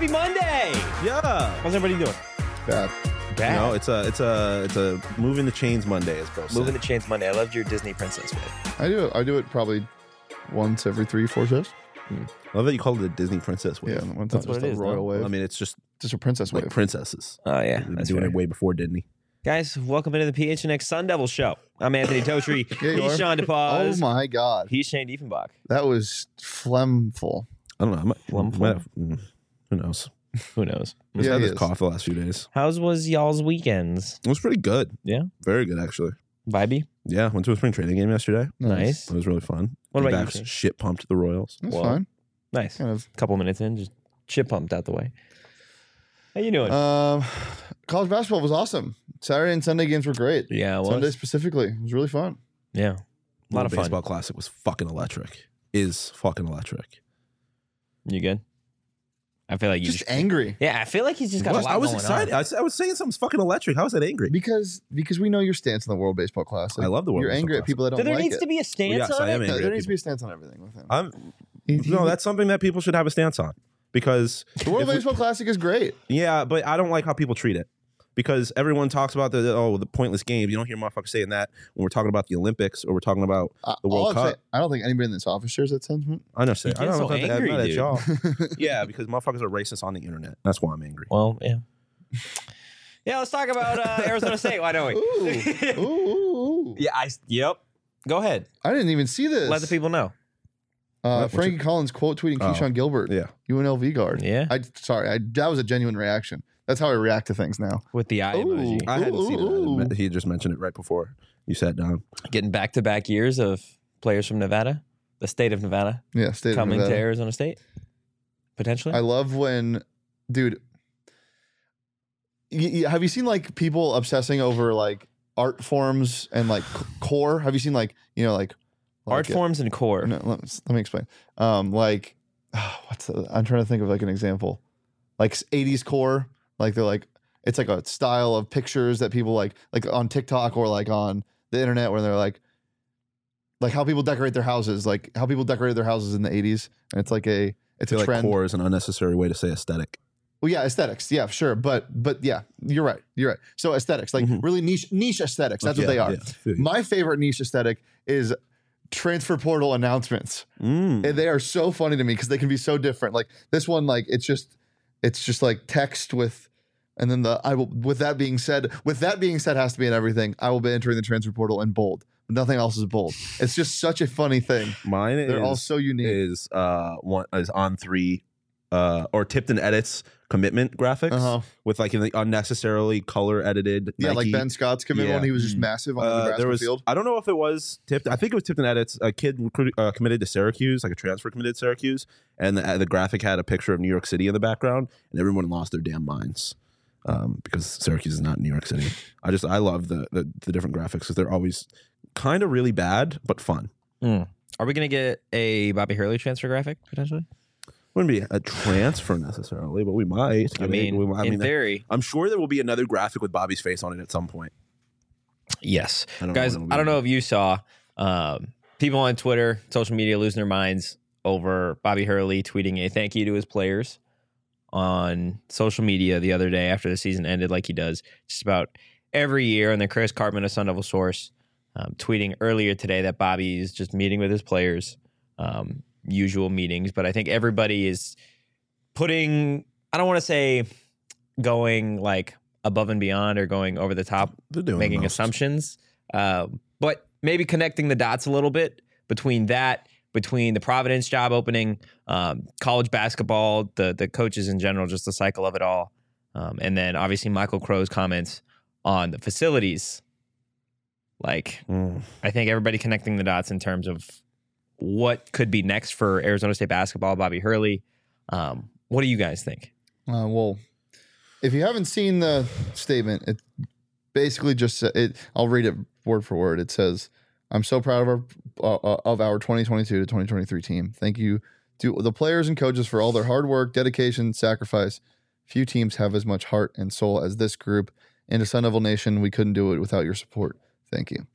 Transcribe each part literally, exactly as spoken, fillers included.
Happy Monday! Yeah. How's everybody doing? Bad. Bad. No, it's a it's a it's a moving the chains Monday, as Bro said. Moving the chains Monday. I loved your Disney princess way. I do it. I do it probably once every three, four shows. I love that you call it a Disney princess wave. Yeah, once That's just what it a is, royal though. wave. I mean, it's just just a princess like wave. princesses. Oh, yeah. We've been That's doing fair. it way before Disney. Guys, welcome into the P H N X Sun Devil Show. I'm Anthony Totri. Yeah, you He's are. Sean Oh DePaz. my god, He's Shane Diefenbach. that was phlegmful. I don't know. I might, Plum might have- mm, who knows? Who knows? I just Yeah, had he this is. cough the last few days. How's was y'all's weekends? It was pretty good. Yeah? Very good, actually. Vibey? Yeah, went to a spring training game yesterday. Nice. It was really fun. What about you, Backs Shane? shit pumped the Royals. That's Well, fine. Nice. Kind of. Couple minutes in, just chip pumped out the way. How you doing? Um, college basketball was awesome. Saturday and Sunday games were great. yeah, it was. Sunday specifically, it was really fun. Yeah. A lot Little of fun. baseball classic was fucking electric. Is fucking electric. You good? I feel like you Just just, angry Yeah, I feel like he's just got a What? lot I was going excited. on. I was, I was saying something's fucking electric. How is that angry? because because we know your stance on the World Baseball Classic. I love the World You're Baseball angry at Classic. people that Do don't there like needs it. to be a stance Yes, on I am it? No, angry there at needs to people. be a stance on everything with him. I'm He- he- no, that's something that people should have a stance on because the World if we- Baseball Classic is great. yeah, but I don't like how people treat it because everyone talks about the oh the pointless games. You don't hear motherfuckers saying that when we're talking about the Olympics or we're talking about Uh, the all World I'm Cup. saying- I don't think anybody in this office shares that sentiment. I know, say You I don't get know so if I'm angry, mad at dude. y'all. Yeah, because motherfuckers are racist on the internet. That's why I'm angry. Well, yeah. Yeah, let's talk about uh, Arizona State. Why don't we? Ooh, ooh, ooh, ooh. Yeah, I. Yep. Go ahead. I didn't even see this. Let the people know. Uh, What- Frankie Collins quote tweeting Oh. Keyshawn Gilbert, Yeah, U N L V guard. Yeah. I sorry, I, that was a genuine reaction. That's how I react to things now. With the eye Ooh. emoji. I hadn't Ooh, seen ooh, it. He just mentioned it right before you sat down. Getting back to back years of players from Nevada, the state of Nevada, Yeah, state of coming to Nevada. Arizona State. Potentially. I love when, dude. Y- y- have you seen like people obsessing over like art forms and like c- core? Have you seen like you know like Art like, forms and core. No, let, let me explain. Um, like, what's the, I'm trying to think of like an example, like eighties core. Like they're like it's like a style of pictures that people like like on TikTok or like on the internet where they're like like how people decorate their houses, like how people decorated their houses in the eighties, and it's like a it's I a feel trend. like core is an unnecessary way to say aesthetic. Well, yeah, aesthetics, yeah, sure, but but yeah, you're right, you're right. So aesthetics, like Mhm. really niche niche aesthetics. That's Yeah, what they are. yeah, I feel you. My favorite niche aesthetic is transfer portal announcements. Mm. And they are so funny to me because they can be so different. Like this one, like it's just it's just like text with and then the I will with that being said, with that being said has to be in everything. I will be entering the transfer portal in bold. Nothing else is bold. It's just such a funny thing. Mine They're is, all so unique. is uh one is on three uh or Tipton Edits commitment graphics Uh-huh. with like the unnecessarily color edited. Yeah, like Nike. Ben Scott's commit Yeah. one. He was just Mm. massive on the Uh, Nebraska there was field. I don't know if it was Tipton. I think it was Tipton Edits. A kid recruit, uh, committed to Syracuse, like a transfer committed to Syracuse, and the, uh, the graphic had a picture of New York City in the background, and everyone lost their damn minds um, because Syracuse is not New York City. I just I love the the, the different graphics because they're always kind of really bad but fun. Mm. Are we going to get a Bobby Hurley transfer graphic potentially? Wouldn't be a transfer necessarily, but we might. I mean, we, I in mean, theory, I'm sure there will be another graphic with Bobby's face on it at some point. yes. I don't Guys, know when it'll I don't be. know if you saw um, people on Twitter, social media losing their minds over Bobby Hurley tweeting a thank you to his players on social media the other day after the season ended, like he does just about every year. And then Chris Cartman, a Sun Devil source, um, tweeting earlier today that Bobby is just meeting with his players, um, usual meetings. But I think everybody is putting, I don't want to say going like above and beyond or going over the top, They're doing the making most. assumptions, um, but maybe connecting the dots a little bit between that, between the Providence job opening, um, college basketball, the the coaches in general, just the cycle of it all, um, and then obviously Michael Crow's comments on the facilities. Like, Mm. I think everybody connecting the dots in terms of what could be next for Arizona State basketball, Bobby Hurley. Um, what do you guys think? Uh, well, if you haven't seen the statement, it basically just sa- it. I'll read it word for word. It says, "I'm so proud of our uh, of our twenty twenty-two to twenty twenty-three team. Thank you to the players and coaches for all their hard work, dedication, sacrifice. Few teams have as much heart and soul as this group. And to Sun Devil Nation, we couldn't do it without your support. Thank you."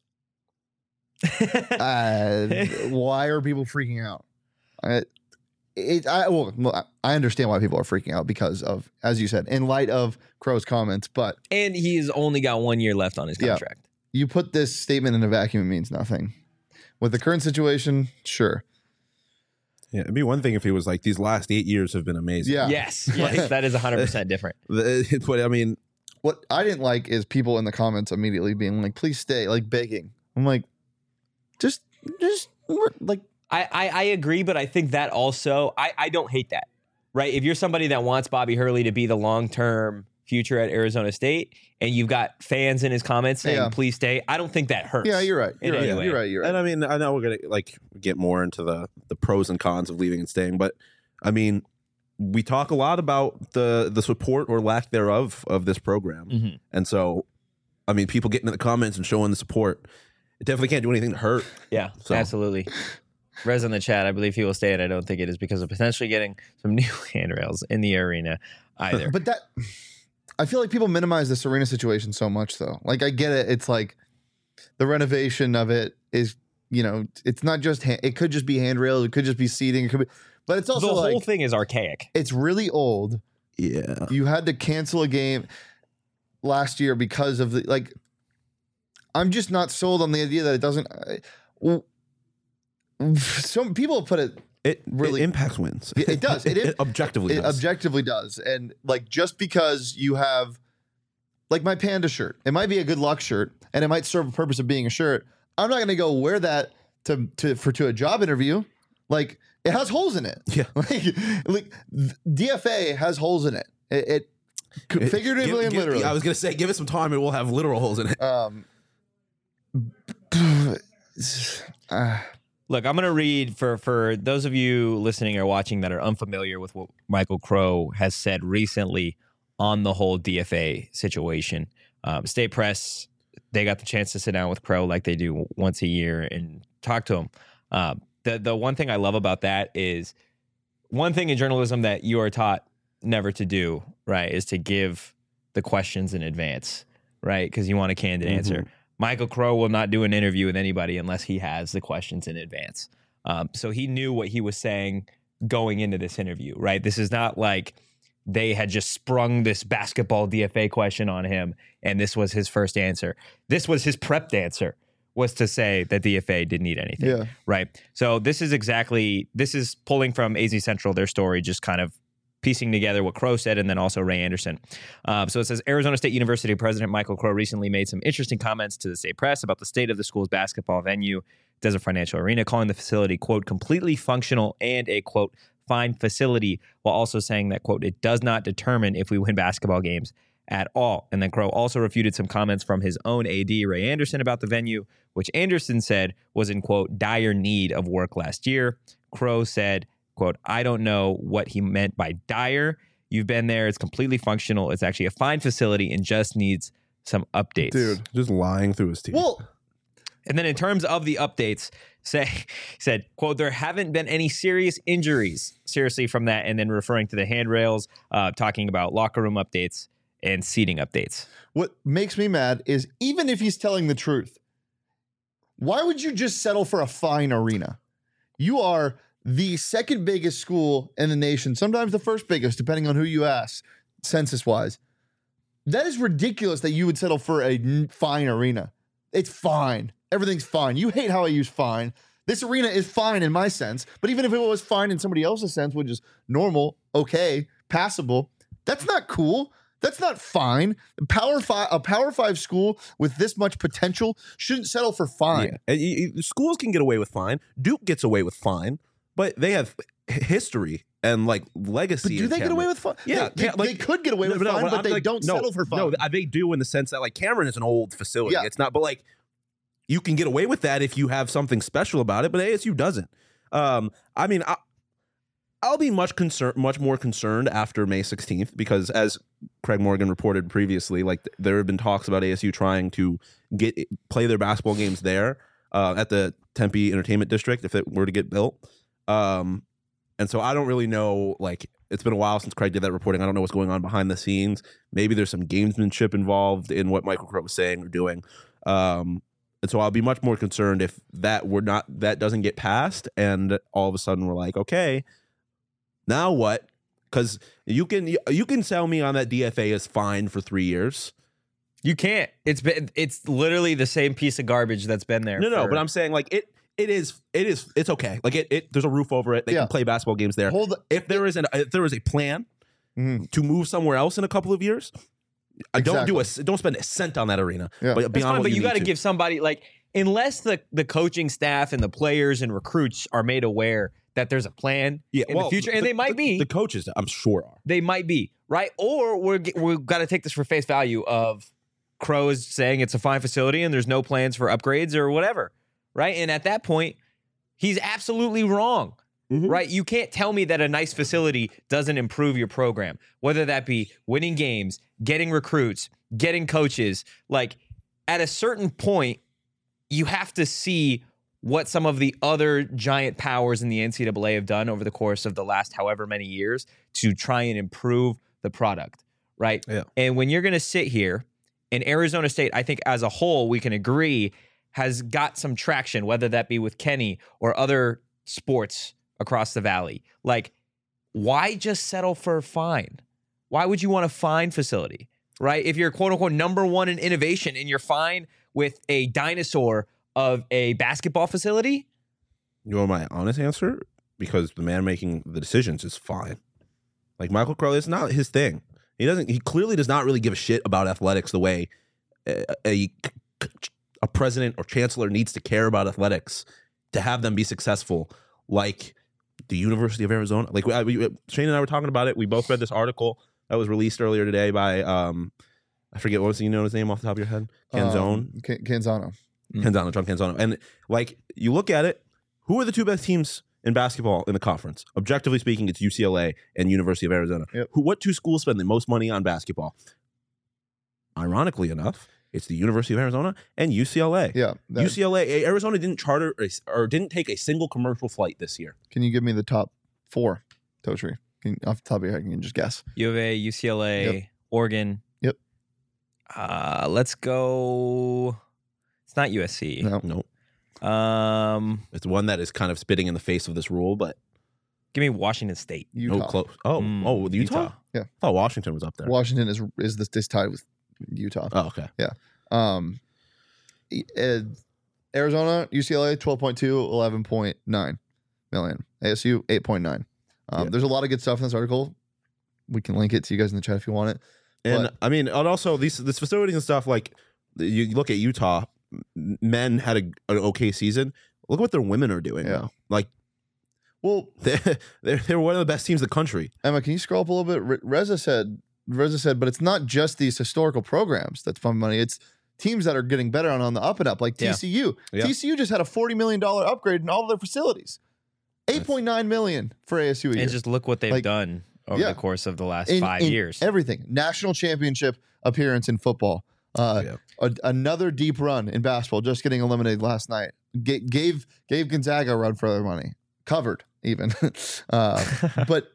Uh, why are people freaking out? I, it, I well, I understand why people are freaking out because of, as you said, in light of Crow's comments. But and he's only got one year left on his contract. Yeah, you put this statement in a vacuum, it means nothing. With the current situation, sure. Yeah, it'd be one thing if he was like, these last eight years have been amazing. Yeah. Yes, yes, that is one hundred percent different. But I mean, what I didn't like is people in the comments immediately being like, "Please stay," like begging. I'm like, just, just like. I, I, I agree, but I think that also, I, I don't hate that, right? If you're somebody that wants Bobby Hurley to be the long-term future at Arizona State, and you've got fans in his comments saying, Yeah. please stay, I don't think that hurts. Yeah, you're right. You're in right. any way. You're right. You're right. and I mean, I know we're gonna like get more into the the pros and cons of leaving and staying, but I mean, we talk a lot about the the support or lack thereof of this program, Mhm. and so, I mean, people getting in the comments and showing the support, it definitely can't do anything to hurt. Yeah, So- absolutely. Rez in the chat, I believe he will stay, and I don't think it is because of potentially getting some new handrails in the arena either. But that, I feel like people minimize this arena situation so much, though. Like, I get it. It's like the renovation of it is, you know, it's not just, hand, it could just be handrails, it could just be seating, it could be, but it's also the whole like, thing is archaic. it's really old. Yeah, You had to cancel a game last year because of the, like, I'm just not sold on the idea that it doesn't. Uh, w- some people put it it Really- really impacts wins. It- it does. It- It, objectively it does. objectively does. And like, just because you have like my Panda shirt, it might be a good luck shirt and it might serve a purpose of being a shirt. I'm not going to go wear that to, to, for, to a job interview. Like, it has holes in it. Yeah. Like, like D F A has holes in it. It, it It- figuratively give- and give- literally. I was gonna say, give it some time, and we'll have literal holes in it. um, uh, Look, I'm going to read for for those of you listening or watching that are unfamiliar with what Michael Crow has said recently on the whole D F A situation. Um, State Press, they got the chance to sit down with Crow like they do once a year and talk to him. Um, the the one thing I love about that is one thing in journalism that you are taught never to do, right, is to give the questions in advance, right, because you want a candid Mhm. answer. Michael Crow will not do an interview with anybody unless he has the questions in advance. Um, so he knew what he was saying going into this interview, right? This is not like they had just sprung this basketball D F A question on him and this was his first answer. This was his prepped answer, was to say that D F A didn't need anything, yeah. right? So this is exactly, this is pulling from A Z Central, their story, just kind of piecing together what Crow said and then also Ray Anderson. Um, so it says, Arizona State University President Michael Crow recently made some interesting comments to the state press about the state of the school's basketball venue, Desert Financial Arena, calling the facility, quote, completely functional and a, quote, fine facility, while also saying that, quote, it does not determine if we win basketball games at all. And then Crow also refuted some comments from his own A D, Ray Anderson, about the venue, which Anderson said was in, quote, dire need of work last year. Crow said, quote, I don't know what he meant by dire. You've been there. It's completely functional. It's actually a fine facility and just needs some updates. Dude. Just lying through his teeth. Well, And then in terms of the updates, say said, quote, there haven't been any serious injuries, seriously, from that. And then referring to the handrails, uh, talking about locker room updates and seating updates. what makes me mad is even if he's telling the truth, why would you just settle for a fine arena? You are the second biggest school in the nation, sometimes the first biggest, depending on who you ask, census wise. That is ridiculous that you would settle for a n- fine arena. It's fine. Everything's fine. You hate how I use fine. This arena is fine in my sense, but even if it was fine in somebody else's sense, which is normal, okay, passable, that's not cool. That's not fine. Power five, a Power Five school with this much potential shouldn't settle for fine. Yeah. And you- you- schools can get away with fine. Duke gets away with fine, but they have h- history and like legacy. But do in they get Cameron. away with fine? Yeah, they, Cam- they, like- they could get away with No, no, fine, but I'm they like, don't no, settle for fine. No, they do in the sense that like Cameron is an old facility. Yeah. It's not, but like you can get away with that if you have something special about it, but A S U doesn't. Um, I mean, I, I'll be much concerned, much more concerned after May sixteenth because, as Craig Morgan reported previously, like there have been talks about A S U trying to get play their basketball games there uh, at the Tempe Entertainment District if it were to get built. Um, and so I don't really know. Like it's been a while since Craig did that reporting. I don't know what's going on behind the scenes. Maybe there's some gamesmanship involved in what Michael Crow was saying or doing. Um, and so I'll be much more concerned if that we're not that doesn't get passed, and all of a sudden we're like, okay. Now what? Because you can you can sell me on that D F A is fine for three years. You can't. It's been it's literally the same piece of garbage that's been there. No, no, for- but I'm saying like it. It is. It is. It's okay. Like it. it there's a roof over it. They Yeah. can play basketball games there. Hold if there is an if there is a plan Mhm. to move somewhere else in a couple of years, I don't do a don't spend a cent on that arena. Yeah. But That's beyond fine, what but you, you need got to to. give somebody like unless the the coaching staff and the players and recruits are made aware that there's a plan yeah, in well, the future, and the- they might the- be. The coaches, I'm sure, are. They might be, right? Or we're g- we've got to take this for face value of Crow is saying it's a fine facility and there's no plans for upgrades or whatever, right? And at that point, he's absolutely wrong, Mhm. right? You can't tell me that a nice facility doesn't improve your program, whether that be winning games, getting recruits, getting coaches. Like at a certain point, you have to see what some of the other giant powers in the N C double A have done over the course of the last however many years to try and improve the product, right? Yeah. And when you're going to sit here, and Arizona State, I think as a whole, we can agree, has got some traction, whether that be with Kenny or other sports across the valley. Like, why just settle for fine? Why would you want a fine facility, right? If you're quote unquote number one in innovation and you're fine with a dinosaur of a basketball facility, You want my honest answer? Because the man making the decisions is fine. Like Michael Crow, it's not his thing. He doesn't. He clearly does not really give a shit about athletics the way a, a, a president or chancellor needs to care about athletics to have them be successful. Like the University of Arizona. Like we, we, Shane and I were talking about it. We both read this article that was released earlier today by um, I forget what was you know his name off the top of your head. Canzone. Um, Can- Canzano. Canzano, John Canzano. And like you look at it, who are the two best teams in basketball in the conference? Objectively speaking, it's U C L A and University of Arizona. Yep. Who what two schools spend the most money on basketball? Ironically enough, it's the University of Arizona and U C L A. Yeah. that- U C L A, Arizona didn't charter a, or didn't take a single commercial flight this year. Can you give me the top four, Totri? Can, off the top of your head, can you just guess? U of A, U C L A, Yep. Oregon. Yep. Uh, let's go. It's not U S C. No. No, Um, it's one that is kind of spitting in the face of this rule, but give me Washington State. Utah. no close. Oh, Mm, oh, Utah? Utah. Yeah. I thought Washington was up there. Washington is is this, this tied with Utah. Oh, okay. Um, e- uh, Arizona, U C L A, twelve point two, eleven point nine million. A S U, eight point nine. Um, Yeah. There's a lot of good stuff in this article. We can link it to you guys in the chat if you want it. And But- I mean, and also these this facilities and stuff. Like you, you look at Utah, m- men had a, an okay season. Look what their women are doing Yeah. now. Like Well, they're, they're they're one of the best teams in the country. Emma, can you scroll up a little bit? Re- Reza said, Reza said, but it's not just these historical programs that's pumping money. It's teams that are getting better on, on the up and up, like Yeah. T C U. Yeah. T C U just had a forty million dollars upgrade in all of their facilities. eight point nine million dollars for A S U a year. And just look what they've Like, done over yeah. the course of the last In- five in years. Everything. National championship appearance in football. Uh, Yeah. a- another deep run in basketball, just getting eliminated last night. G- gave gave Gonzaga a run for their money. Covered even. uh, but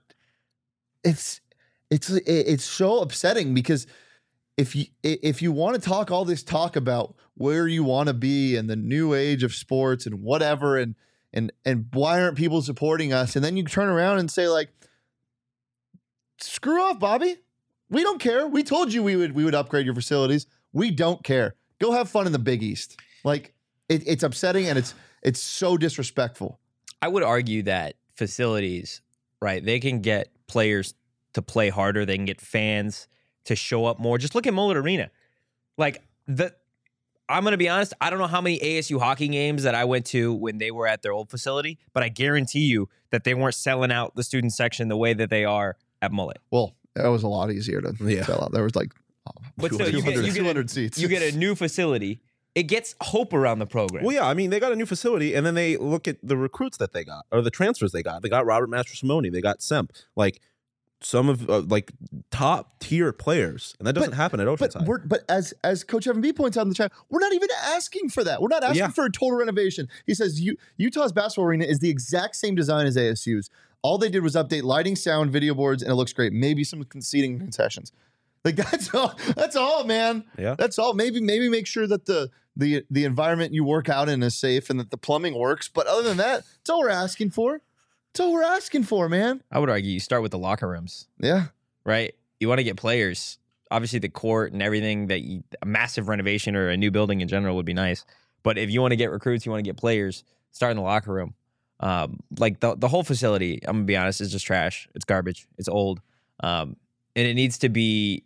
it's it's it's so upsetting because if you if you want to talk all this talk about where you want to be and the new age of sports and whatever and and and why aren't people supporting us, and then you turn around and say like, screw off, Bobby. We don't care. We told you we would we would upgrade your facilities. We don't care. Go have fun in the Big East. Like it, it's upsetting and it's it's so disrespectful. I would argue that facilities, right, they can get players to play harder. They can get fans to show up more. Just look at Mullet Arena. Like, the, I'm going to be honest, I don't know how many A S U hockey games that I went to when they were at their old facility, but I guarantee you that they weren't selling out the student section the way that they are at Mullet. Well, that was a lot easier to Yeah. sell out. There was like But still, you get, you, get two hundred a, seats. you get a new facility. It gets hope around the program. Well, yeah, I mean, they got a new facility, and then they look at the recruits that they got or the transfers they got. They got Robert Mastrosimone, they got Semp, like some of uh, like top tier players, and that doesn't But- happen at But Oceanside. we're but as as Coach Evan B points out in the chat, we're not even asking for that. We're not asking Yeah. for a total renovation. He says U- Utah's basketball arena is the exact same design as A S U's. All they did was update lighting, sound, video boards, and it looks great. Maybe some conceding concessions. Like that's all. That's all, man. Yeah. That's all. Maybe maybe make sure that the the the environment you work out in is safe and that the plumbing works. But other than that, that's all we're asking for. That's all we're asking for, man. I would argue you start with the locker rooms, Yeah. right? You want to get players. Obviously, the court and everything that you, a massive renovation or a new building in general would be nice. But if you want to get recruits, you want to get players, start in the locker room. Um, like the the whole facility, I'm gonna be honest, is just trash. It's garbage. It's old, um, and it needs to be.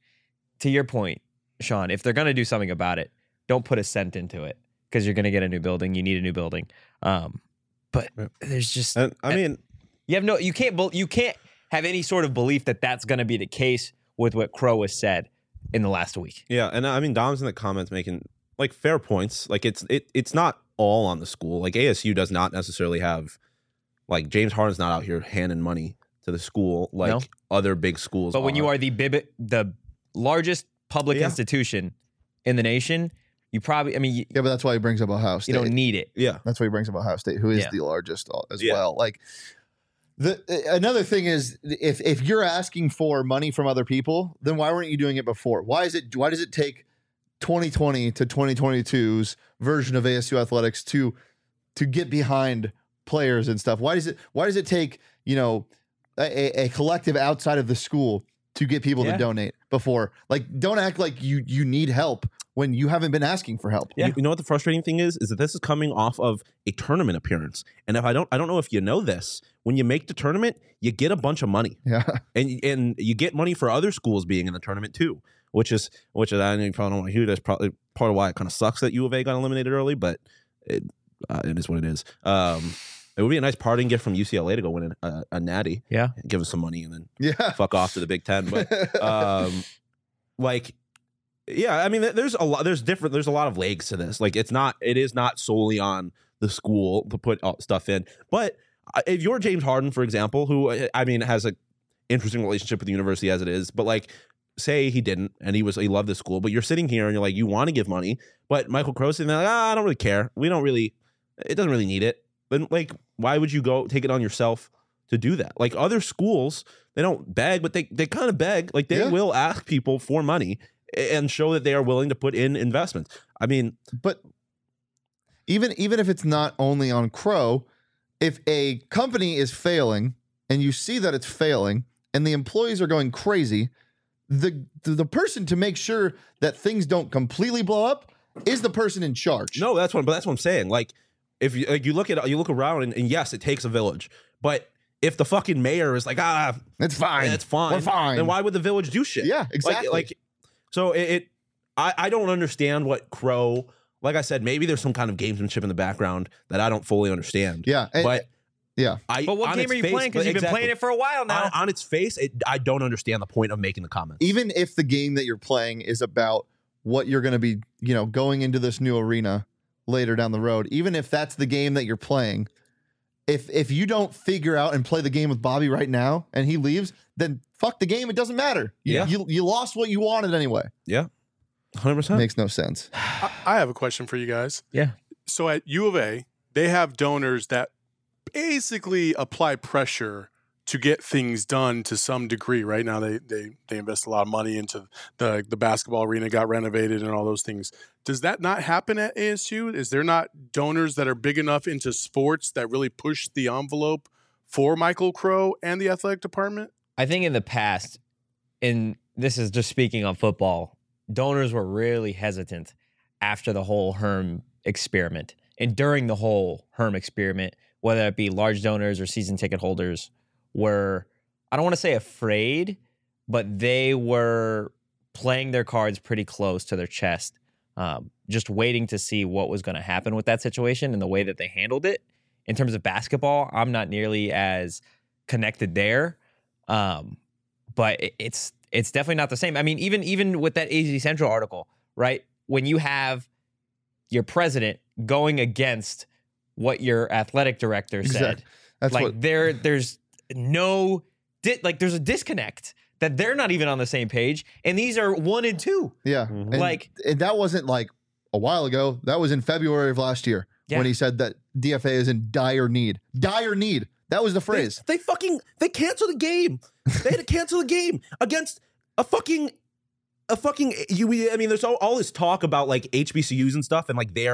To your point, Sean, if they're gonna do something about it, don't put a cent into it because you're gonna get a new building. You need a new building. Um, but Yeah. there's just, And I mean, you have no, you can't, bel- you can't have any sort of belief that that's gonna be the case with what Crow has said in the last week. yeah, and I mean, Dom's in the comments making like fair points. Like it's it it's not all on the school. Like A S U does not necessarily have, like James Harden's not out here handing money to the school like No. other big schools. But when you are the bib- the largest public Yeah. institution in the nation, you probably, I mean, you, Yeah, but that's why he brings up Ohio you State. don't need it. yeah, That's why he brings up Ohio State, who is Yeah. the largest as Yeah. well. Like the another thing is, if if you're asking for money from other people, then why weren't you doing it before? Why is it? Why does it take twenty twenty to twenty twenty-two's version of A S U athletics to to get behind players and stuff? Why does it? Why does it take you know a, a collective outside of the school to get people Yeah. to donate before? Like, don't act like you you need help when you haven't been asking for help. Yeah. You, you know what the frustrating thing is? Is that this is coming off of a tournament appearance, and if I don't, I don't know if you know this. When you make the tournament, you get a bunch of money, Yeah. and and you get money for other schools being in the tournament too, which is which is I know you probably don't want to hear. That's probably part of why it kind of sucks that U of A got eliminated early, but it uh, it is what it is. Um, it would be a nice parting gift from U C L A to go win a, a natty, Yeah. give us some money, and then Yeah. fuck off to the Big Ten. But um, like, yeah, I mean, there- there's a lot. There's different. There's a lot of legs to this. Like, it's not. It is not solely on the school to put all stuff in. But uh, if you're James Harden, for example, who uh, I mean has a interesting relationship with the university as it is, but like, say he didn't and he was he loved the school, but you're sitting here and you're like, you want to give money, but Michael Crow's sitting there like, ah, I don't really care. We don't really. It doesn't really need it. Then like, why would you go take it on yourself to do that? Like other schools, they don't beg, but they they kind of beg. Like they Yeah. will ask people for money and show that they are willing to put in investments. I mean, But even even if it's not only on Crow, if a company is failing and you see that it's failing and the employees are going crazy, the the, the person to make sure that things don't completely blow up is the person in charge. no, that's what. But that's what I'm saying. Like, if you like, you look at you look around and, and yes, it takes a village, but if the fucking mayor is like, ah, It's fine. it's fine, We're fine. then why would the village do shit? Yeah, Like- exactly. Like, so it, it I, I don't understand what Crow. Like I said, maybe there's some kind of gamesmanship in the background that I don't fully understand. yeah. and- but yeah. I. But what on game its are you face- playing? Because but you've been exactly. playing it for a while now. on, on its face, it, I don't understand the point of making the comments. Even if the game that you're playing is about what you're going to be, you know, going into this new arena later down the road, even if that's the game that you're playing, if if you don't figure out and play the game with Bobby right now and he leaves, then fuck the game. It doesn't matter. You, Yeah. you, you lost what you wanted anyway. yeah, one hundred percent. Makes no sense. I, I have a question for you guys. Yeah. So at U of A, they have donors that basically apply pressure to get things done to some degree. Right now, they they they invest a lot of money into the the basketball arena, got renovated, and all those things. Does that not happen at A S U? Is there not donors that are big enough into sports that really push the envelope for Michael Crow and the athletic department? I think in the past, and this is just speaking on football, donors were really hesitant after the whole Herm experiment and during the whole Herm experiment, whether it be large donors or season ticket holders, were, I don't want to say afraid, but they were playing their cards pretty close to their chest, um, just waiting to see what was going to happen with that situation and the way that they handled it. In terms of basketball, I'm not nearly as connected there. Um, but it, it's it's definitely not the same. I mean, even even with that A Z Central article, right? When you have your president going against what your athletic director said, Exactly. That's like what. there there's no di- like there's a disconnect that they're not even on the same page, and these are one and two. Yeah. Mhm. And, Like- and that wasn't like a while ago. That was in February of last year Yeah. when he said that D F A is in dire need. Dire need. That was the phrase. They, they fucking they canceled the game. They had to cancel the game against a fucking a fucking you. I mean, there's all, all this talk about like H B C Us and stuff, and like their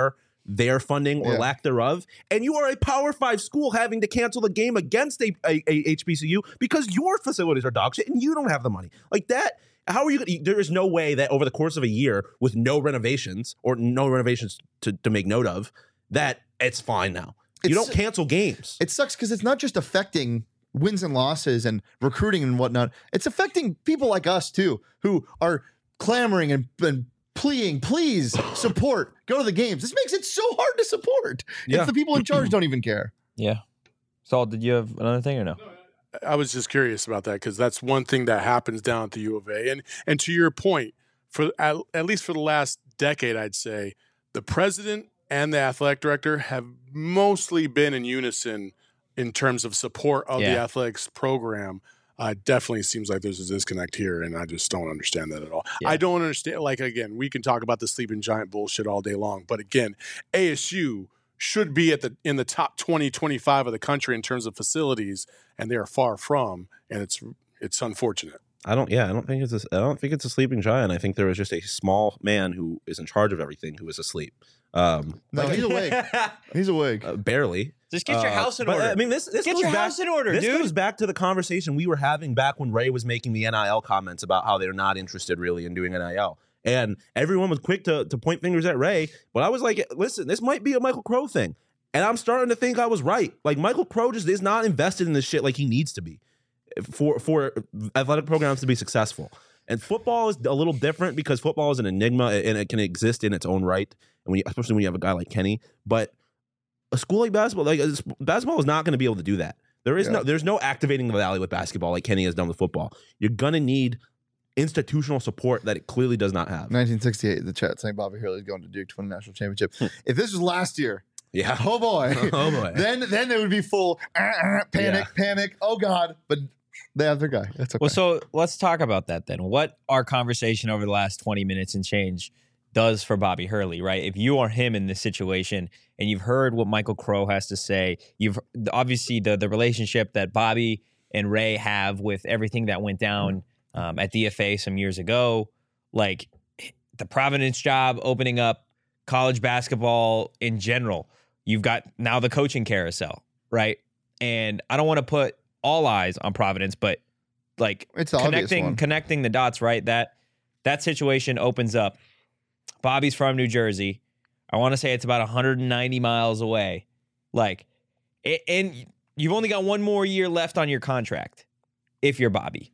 their funding or Yeah. lack thereof, and you are a Power Five school having to cancel the game against a, a, a H B C U because your facilities are dog shit and you don't have the money. Like that, how are you gonna, there is no way that over the course of a year with no renovations or no renovations to, to make note of, that it's fine now. You It's- don't cancel games. It sucks because it's not just affecting wins and losses and recruiting and whatnot. It's affecting people like us too, who are clamoring and, and pleading, please support, go to the games. This makes it so hard to support. Yeah. If the people in charge don't even care. Yeah. Saul, did you have another thing or no? I was just curious about that because that's one thing that happens down at the U of A. And and to your point, for at, at least for the last decade, I'd say the president and the athletic director have mostly been in unison in terms of support of Yeah. the athletics program. Uh, definitely seems like there's a disconnect here, and I just don't understand that at all. Yeah. I don't understand. Like again, we can talk about the sleeping giant bullshit all day long, but again, A S U should be at the in the top twenty, twenty-five of the country in terms of facilities, and they are far from, and it's it's unfortunate. I don't. Yeah, I don't think it's. A, I don't think it's a sleeping giant. I think there was just a small man who is in charge of everything who is asleep. Um, No, he's awake. He's awake. uh, barely. Just get your Uh, house in but, order. I mean, this this Get goes your back, house in order, This dude. goes back to the conversation we were having back when Ray was making the N I L comments about how they're not interested really in doing N I L, and everyone was quick to to point fingers at Ray. But I was like, listen, this might be a Michael Crow thing, and I'm starting to think I was right. Like Michael Crow just is not invested in this shit like he needs to be for for athletic programs to be successful. And football is a little different because football is an enigma and it can exist in its own right, and when you, especially when you have a guy like Kenny. But a school like basketball, like uh, basketball, is not going to be able to do that. There is Yeah. no, there's no activating the valley with basketball like Kenny has done with football. You're gonna need institutional support that it clearly does not have. nineteen sixty-eight, the chat saying Bobby Hurley is going to Duke to win a national championship. If this was last year, Yeah. oh boy, Oh boy. then then they would be full uh, uh, panic, panic. Oh God! But they have their guy. That's okay. Well, so let's talk about that then. What our conversation over the last twenty minutes and change does for Bobby Hurley, right? If you are him in this situation and you've heard what Michael Crow has to say, you've obviously the the relationship that Bobby and Ray have with everything that went down um, at D F A some years ago, like the Providence job opening up college basketball in general. You've got now the coaching carousel, right? And I don't want to put all eyes on Providence, but like It's the obvious connecting one. connecting the dots, right? That that situation opens up. Bobby's from New Jersey. I want to say it's about one hundred ninety miles away. Like, it, and you've only got one more year left on your contract if you're Bobby.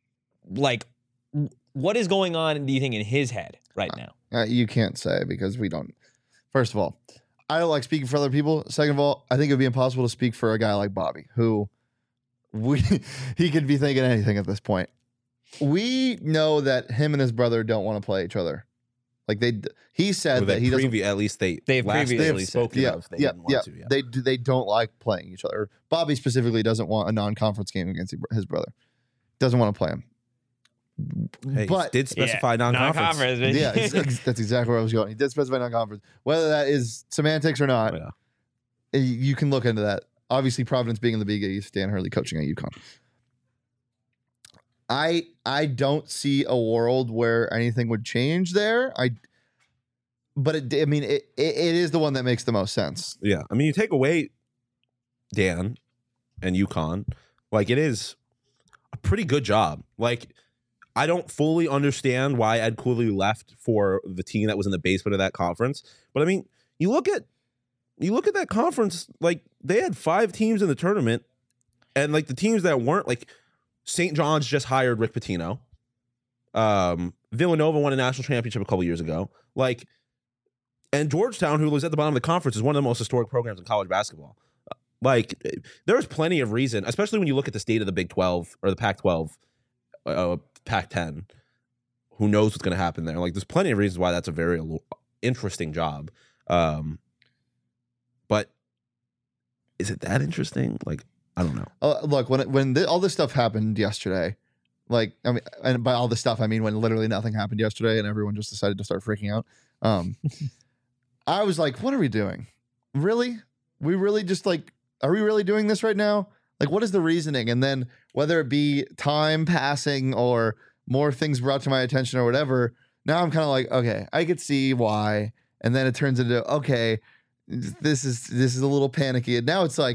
Like, what is going on, do you think, in his head right now? Uh, you can't say because we don't. First of all, I don't like speaking for other people. Second of all, I think it would be impossible to speak for a guy like Bobby, who we he could be thinking anything at this point. We know that him and his brother don't want to play each other. Like they, he said Well, that they he doesn't. previ- at least they They've last previously they have said- spoken Yeah, of. They yeah, didn't want yeah. to, yeah. They do. They don't like playing each other. Bobby specifically doesn't want a non-conference game against his brother. Doesn't want to play him. Hey, but did specify non-conference. Non-conference. yeah, ex- ex- that's exactly where I was going. He did specify non-conference. Whether that is semantics or not, Yeah. eh, you can look into that. Obviously, Providence being in the Big East, Dan Hurley coaching at UConn. I I don't see a world where anything would change there. I, but it, I mean, it, it it is the one that makes the most sense. Yeah, I mean, you take away Dan and UConn, like it is a pretty good job. Like, I don't fully understand why Ed Cooley left for the team that was in the basement of that conference, but I mean, you look at you look at that conference, like they had five teams in the tournament, and like the teams that weren't, like Saint John's just hired Rick Pitino. Um, Villanova won a national championship a couple years ago. Like, and Georgetown, who was at the bottom of the conference, is one of the most historic programs in college basketball. Like, there's plenty of reason, especially when you look at the state of the Big twelve or the Pac twelve, uh, Pac ten. Who knows what's going to happen there? Like, there's plenty of reasons why that's a very lo- interesting job. Um, but is it that interesting? Like, I don't know. Uh, look, when it, when th- all this stuff happened yesterday, like I mean, and by all this stuff I mean when literally nothing happened yesterday and everyone just decided to start freaking out. Um, I was like, "What are we doing? Really? We really just like, are we really doing this right now? Like, what is the reasoning?" And then whether it be time passing or more things brought to my attention or whatever, now I'm kind of like, okay, I could see why. And then it turns into okay. this is this is a little panicky. And now it's like,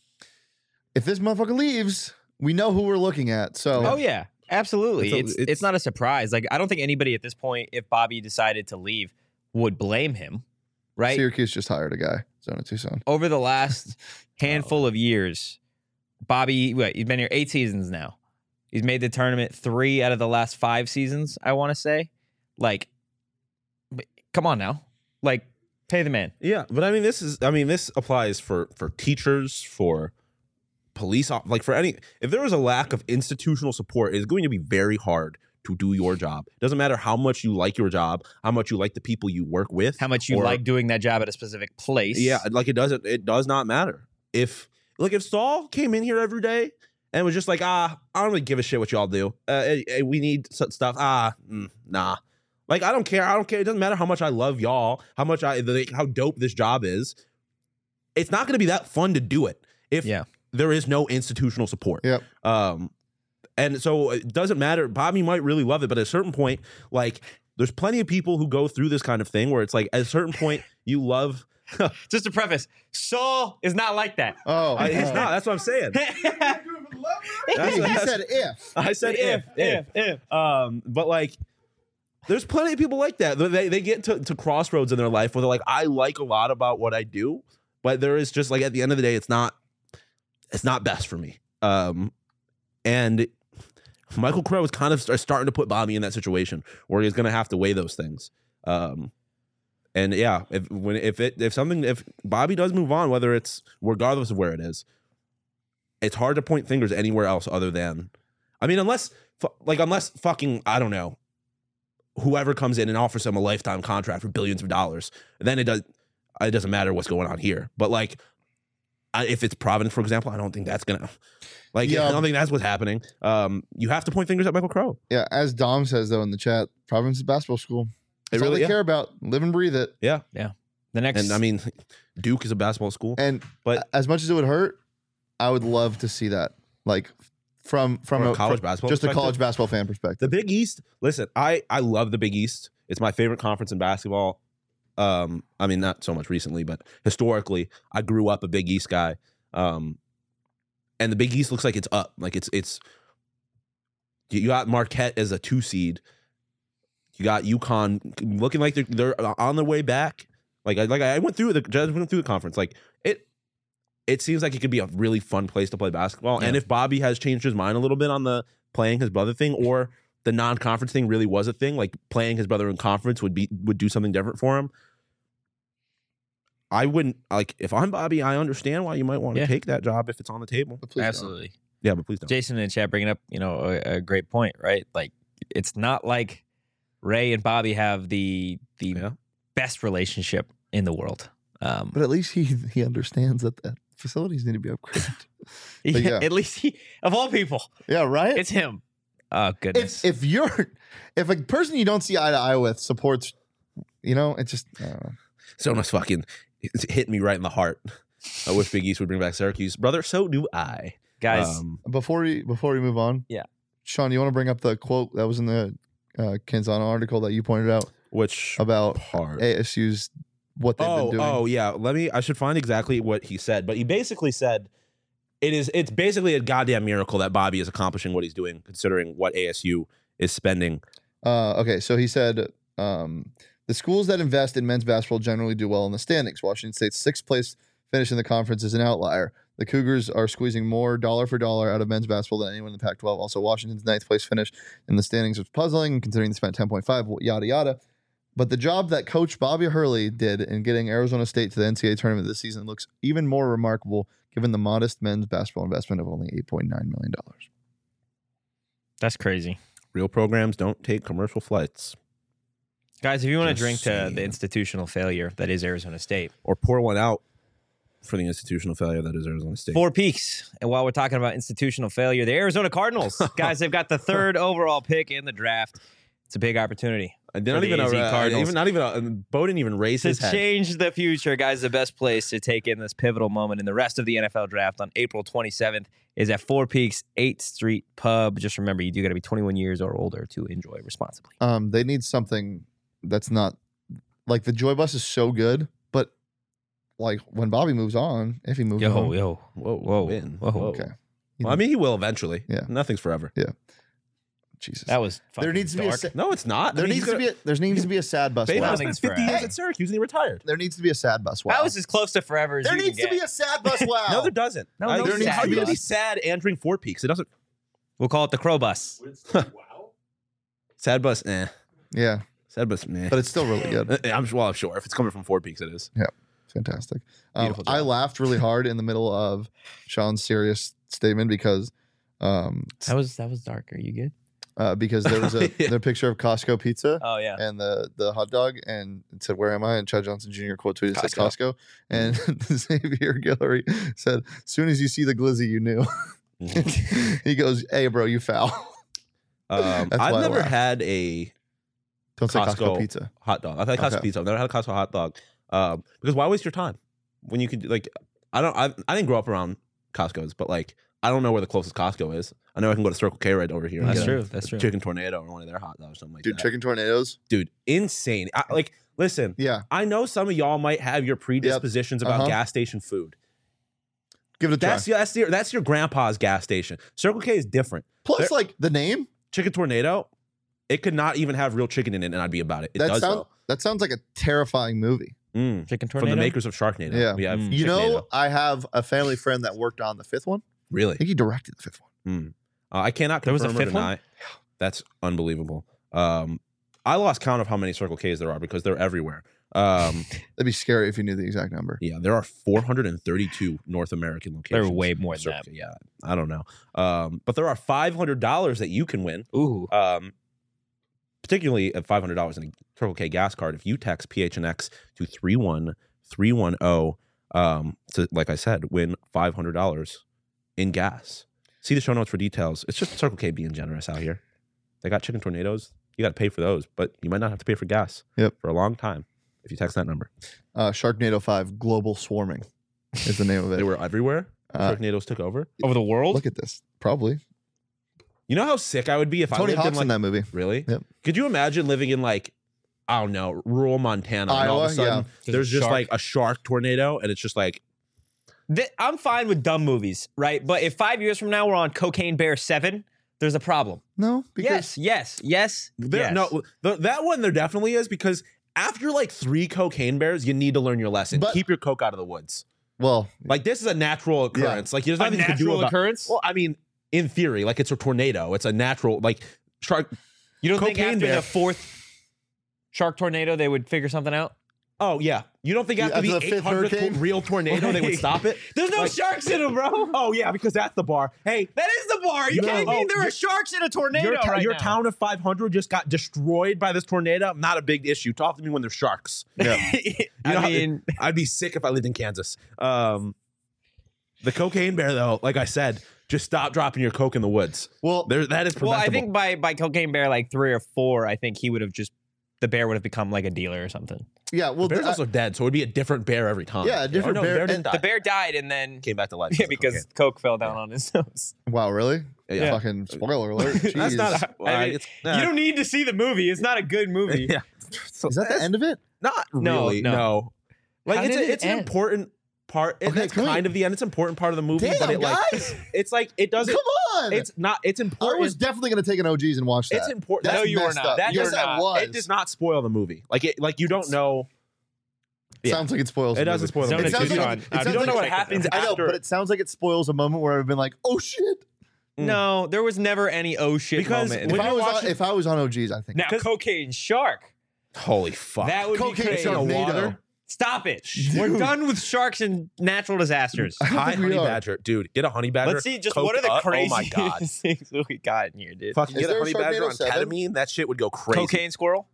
if this motherfucker leaves, we know who we're looking at. So Oh yeah, absolutely. It's a- It's it's, it's- not a surprise. Like I don't think anybody at this point, if Bobby decided to leave, would blame him, right? Syracuse just hired a guy, Zona Tucson. Over the last handful of years, Bobby, what, he's been here eight seasons now. He's made the tournament three out of the last five seasons, I want to say. Like, but come on now. Like, pay the man. Yeah, but I mean, this is. I mean, this applies for for teachers, for police, op- like for any. If there is a lack of institutional support, it's going to be very hard to do your job. It doesn't matter how much you like your job, how much you like the people you work with, How much you or- like doing that job at a specific place. Yeah, like it doesn't. It does not matter. If like if Saul came in here every day and was just like, ah, I don't really give a shit what y'all do. Uh, eh, eh, we need s- stuff. Ah, mm, nah. Like I don't care. I don't care. It doesn't matter how much I love y'all, how much I, the, how dope this job is. It's not going to be that fun to do it if Yeah. there is no institutional support. Yep. Um, and so it doesn't matter. Bobby might really love it, but at a certain point, like there's plenty of people who go through this kind of thing where it's like at a certain point you love. Just to preface, Saul is not like that. Oh, I, it's oh. not. That's what I'm saying. That's He, what- he that's- said if. I said if, if, if. Um, but like, there's plenty of people like that. They they get to, to crossroads in their life where they're like, I like a lot about what I do, but there is just like at the end of the day, it's not, it's not best for me. Um, and Michael Crow is kind of start, starting to put Bobby in that situation where he's going to have to weigh those things. Um, and yeah, if when if it if something if Bobby does move on, whether it's regardless of where it is, it's hard to point fingers anywhere else other than, I mean, unless fu- like unless fucking I don't know, whoever comes in and offers him a lifetime contract for billions of dollars, then it does it doesn't matter what's going on here. But like, I, if it's Providence, for example, I don't think that's gonna like Yeah. I don't think that's what's happening. Um, you have to point fingers at Michael Crow. Yeah, as Dom says though in the chat, Providence is basketball school. It That's all really- they yeah. care about. Live and breathe it. Yeah, The next, and I mean, Duke is a basketball school. And But- as much as it would hurt, I would love to see that. Like from from From a a college from- basketball just a perspective? college basketball fan The perspective. Big East, listen, I I love the Big East. It's my favorite conference in basketball. Um, I mean, not so much recently, but historically, I grew up a Big East guy. Um, and the Big East looks like it's up. Like it's it's you got Marquette as a two seed. You got UConn looking like they're they're on their way back. Like I like I went through the just went through the conference. Like it it seems like it could be a really fun place to play basketball. And Yeah. if Bobby has changed his mind a little bit on the playing his brother thing, or the non-conference thing really was a thing, like playing his brother in conference would be would do something different for him. I wouldn't like if I'm Bobby. I understand why you might want to Yeah. take that job if it's on the table. But please don't. absolutely. Yeah, but please don't. Jason in the chat bringing up, you know, a, a great point, right? Like, it's not like Ray and Bobby have the the Yeah. best relationship in the world. Um, But at least he he understands that the facilities need to be upgraded. yeah, yeah. At least he, of all people, yeah, right. it's him. Oh goodness. if if you're if a person you don't see eye to eye with supports, you know, it's just I don't know. Sona's fucking it's hit me right in the heart. I wish Big East would bring back Syracuse, brother. So do I, Guys, Um, Before we before we move on, Yeah. Sean, you want to bring up the quote that was in the uh, Canzano article that you pointed out which about part? A S U's what they've Oh, been doing? oh yeah. Let me. I should find exactly what he said, but he basically said it is. It's basically a goddamn miracle that Bobby is accomplishing what he's doing, considering what A S U is spending. Uh, okay, so he said um, the schools that invest in men's basketball generally do well in the standings. Washington State's sixth place finish in the conference is an outlier. The Cougars are squeezing more dollar for dollar out of men's basketball than anyone in the Pac twelve. Also, Washington's ninth place finish in the standings was puzzling, considering they spent ten point five, yada, yada. But the job that Coach Bobby Hurley did in getting Arizona State to the N C double A tournament this season looks even more remarkable given the modest men's basketball investment of only eight point nine million dollars. that's crazy. Real programs don't take commercial flights Guys, if you want to Just drink to saying. the institutional failure that is Arizona State, or pour one out for the institutional failure that is Arizona State. Four Peaks. And while we're talking about institutional failure, the Arizona Cardinals, guys, they've got the third overall pick in the draft. It's a big opportunity I for did not the even A Z uh, Cardinals. even not even uh, Bo didn't even raise to his head. change the future, guys. The best place to take in this pivotal moment in the rest of the N F L draft on April twenty-seventh is at Four Peaks eighth Street Pub. Just remember, you do got to be twenty-one years or older to enjoy responsibly. Um, they need something that's not like the Joy Bus is so good, but like when Bobby moves on, if he moves Yo, on, yo. Whoa, Whoa, win. whoa. okay. Well, I mean, he will eventually. Yeah. Nothing's forever. Jesus. That was There fucking needs to be a dark. sa- No, it's not. there I mean, needs he's to be a, there needs to be a sad bus. Babe wow. has Nothing's spent fifty years forever. at Syracuse and he retired. There needs to be a sad bus. Wow. That was as close to forever as there you needs can to be get. a sad bus. Wow. No, there doesn't. No, I- no there needs sad how are you gonna be bus. sad and drink Four Peaks? It doesn't. We'll call it the Crow Bus. Sad bus, eh. Yeah, Sad bus, eh. but it's still really good. Uh, I'm well, I'm sure if it's coming from Four Peaks, it is. Fantastic. Um, Beautiful I job. laughed really hard in the middle of Sean's serious statement because, um, That was that was dark. Are you good? uh, because there was a Yeah. the picture of Costco pizza Oh yeah. and the the hot dog, and it said, "Where am I?" And Chad Johnson Junior quote tweeted said Costco, and Xavier Guillory said, "As soon as you see the glizzy, you knew." He goes, "Hey, bro, you foul." Um, That's I've why I never laughed. had a Don't say Costco, Costco. pizza. hot dog. I've had Costco Okay. pizza. I've never had a Costco hot dog. Um, because why waste your time when you could like? I don't. I, I didn't grow up around Costco's, but like I don't know where the closest Costco is. I know I can go to Circle K right over here. and That's get a true. That's true. Chicken Tornado or one of their hot dogs, or something like Dude, that. chicken tornadoes. Dude, insane. I, like, listen, Yeah, I know some of y'all might have your predispositions about Uh-huh. gas station food. give it a That's try. that's your that's your grandpa's gas station. Circle K is different. Plus, there- like the name Chicken Tornado, it could not even have real chicken in it, and I'd be about it. It that does sounds that sounds like a terrifying movie. though. Mm. Chicken From tornado. the makers of Sharknado. Yeah. we have. Mm. You know, Chicknado. I have a family friend that worked on the fifth one. I really? think he directed the fifth one. Mm. Uh, I cannot There was a confirm or fifth one? deny. That's unbelievable. Um, I lost count of how many Circle K's there are because they're everywhere. Um, That'd be scary if you knew the exact number. yeah, there are four hundred thirty-two North American There locations. were way more than Circle that. K. Yeah, I don't know. Um, but there are five hundred dollars that you can win. Ooh. Um, particularly at five hundred dollars in a Circle K gas card if you text P H N X to three one three one zero. Um, to like I said, win five hundred dollars in gas. See the show notes for details. It's just Circle K being generous out here. They got chicken tornadoes. You got to pay for those, but you might not have to pay for gas. Yep. For a long time if you text that number. Uh, Sharknado five Global Swarming is the name of it. They were everywhere. Uh, Sharknadoes took over. Over the world. Look at this. Probably. You know how sick I would be if I Tony lived Hawk's in in like that movie. really? Yep. Could you imagine living in like I don't know, rural Montana, and all of a Iowa, sudden yeah. There's there's a just shark. like a shark tornado, and it's just like Th- I'm fine with dumb movies, right? But if five years from now we're on Cocaine Bear seven, there's a problem. No, Yes, because yes, yes. there, yes. no the, that one. There definitely is because after like three cocaine bears, you need to learn your lesson. But- Keep your coke out of the woods. well, Like this is a natural occurrence. Like there's a nothing you can do natural about. occurrence. Well, I mean, in theory, like it's a tornado. It's a natural like shark. You don't think Cocaine after Bear. the fourth shark tornado they would figure something out? Oh yeah, you don't think Yeah, after, after the, the fifth eight hundredth hurricane? real tornado they would stop it? There's no Like- sharks in them, bro. Oh yeah, because that's the bar. Hey, That is the bar. You No. can't mean Oh, there your- are sharks in a tornado your, ta- right your now. town of five hundred just got destroyed by this tornado. Not a big issue. Talk to me when there's sharks. yeah. You know I how- mean, I'd be sick if I lived in Kansas. Um, the cocaine bear, though, like I said, just stop dropping your coke in the woods. Well, There, that is well, preventable. I think by by Cocaine Bear like three or four, I think he would have just the bear would have become like a dealer or something. yeah. Well, the bear's the- also dead, so it'd be a different bear every time. Yeah, a different Or no, bear, didn't and die. The bear died and then came back to life yeah, of because cocaine. coke fell down on his nose. wow, really? Yeah. Fucking spoiler alert. That's Jeez. not. A, I mean, it's, nah. You don't need to see the movie. It's not a good movie. Yeah. So Is that the end of it? Not No, really. no. No. Like How it's did a, it it's an end? important part. It, Okay, that's can we- kind of the end. It's an important part of the movie, Damn, but it like guys! it's like it doesn't. Come on! It's not. It's I important. was definitely going to take an O Gs and watch that. It's important. No, That's you were messed not. up. That yes, you're I not. was. It does not spoil the movie. Like it. Like you don't know. Yeah. Sounds like it spoils. It the doesn't movie. spoil the Zone It movie. of sounds like- Tucson. it Uh, sounds you don't like- know what happens I know, after. but it sounds like it spoils a moment where I've been like, "Oh shit!" No, there was never any oh shit Because moment. If when I you're was on, watching- if I was on O Gs, I think now, Cocaine Shark. Holy fuck! That would Cocaine be crazy. Shark- in the Sharknado. water. Stop it. Dude. We're done with sharks and natural disasters. I don't Hi, think we honey are. badger, dude. Get a honey badger. Let's see just coked what are the up. craziest Oh my god! things we got in here, dude. Fucking Is get a there a honey badger Sharknado on seven? ketamine. That shit would go crazy. Cocaine squirrel.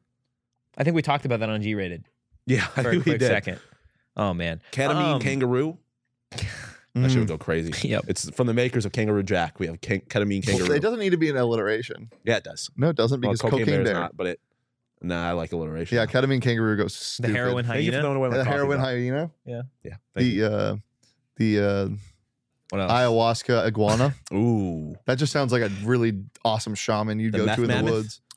I think we talked about that on G Rated Yeah, I for a think we quick did. second. Oh man, Ketamine Um, kangaroo. That Mm. shit would go crazy. Yep. It's from the makers of Kangaroo Jack. We have can- ketamine kangaroo. It doesn't need to be an alliteration. Yeah, it does. No, it doesn't Well, because cocaine, cocaine, bear is bear. not, but it. Nah, I like alliteration. Yeah, ketamine kangaroo goes The stupid. heroin Thank you for hyena. throwing away my the coffee, heroin though. hyena. Yeah. Thank The uh, the uh, What else? ayahuasca iguana. you. Ooh. That just sounds like a really awesome shaman you'd The go meth to in mammoth? the woods.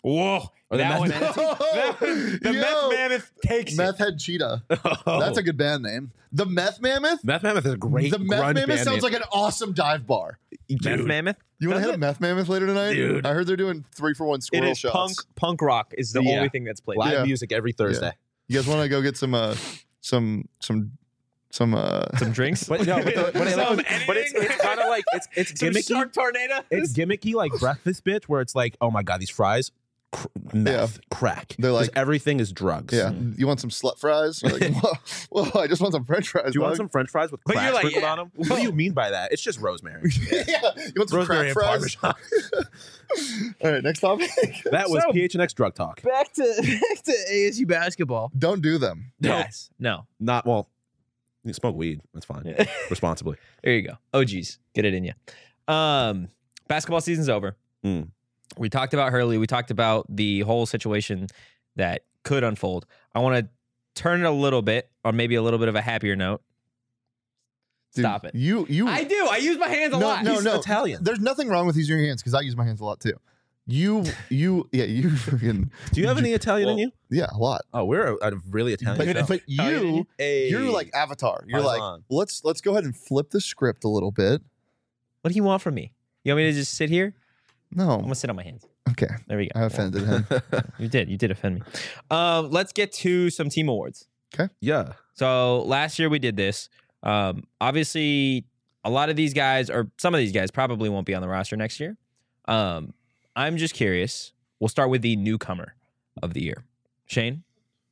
Whoa. Or the That meth one, manatee? that one- the Yo, meth mammoth takes Meth it. Head Cheetah. Oh. That's a good band name. The Meth Mammoth. Meth Mammoth is a great. the Meth grunge Mammoth band sounds name. like an awesome dive bar. Meth Dude, mammoth? You want Does to hit it? a Meth Mammoth later tonight? Dude. I heard they're doing three for one It squirrel is shots. punk. Punk rock is the Yeah. only thing that's played. live Yeah. music every Thursday. You guys want to go get some, uh, some, some, some, uh, Some drinks? But no, but, the, but, it- Some but it's anything? it's kind of like it's it's Some gimmicky. shark tornado? It's gimmicky like breakfast bitch, where it's like, oh my god, these fries, cr- meth, crack. They're 'Cause like- everything is drugs. yeah. You want some slut fries? You're like, whoa, whoa, I just want some French fries. Do you want dog. some French fries with But crack you're like, sprinkled yeah. on them? What do you mean by that? It's just rosemary. yeah. You want some Rosemary crack and fries? Parmesan. All right, next topic. That was So- P H N X drug talk. Back to back to A S U basketball. Don't do them. No. Yes. No. Not well. You smoke weed. That's fine. Yeah. Responsibly. There you go. Oh geez, get it in you. Um, basketball season's over. Mm. We talked about Hurley. We talked about the whole situation that could unfold. I want to turn it a little bit, or maybe a little bit of a happier note. Dude, Stop it. You, you. I do. I use my hands a No, lot. no, He's no. Italian. There's nothing wrong with using your hands because I use my hands a lot too. You, you, yeah, you freaking, Do you have any Italian in Well, you? yeah, a lot. Oh, we're a, a really Italian But, show. but Italian in you, you? Hey. you're like Avatar. You're like, Paisan. let's let's go ahead and flip the script a little bit. What do you want from me? You want me to just sit here? I'm No, gonna sit on my hands. okay, There we go. I offended him. You did. You did offend me. Um, let's get to some team awards. yeah. So last year we did this. Um, obviously, a lot of these guys, or some of these guys, probably won't be on the roster next year. Um, I'm just curious. We'll start with the newcomer of the year, Shane.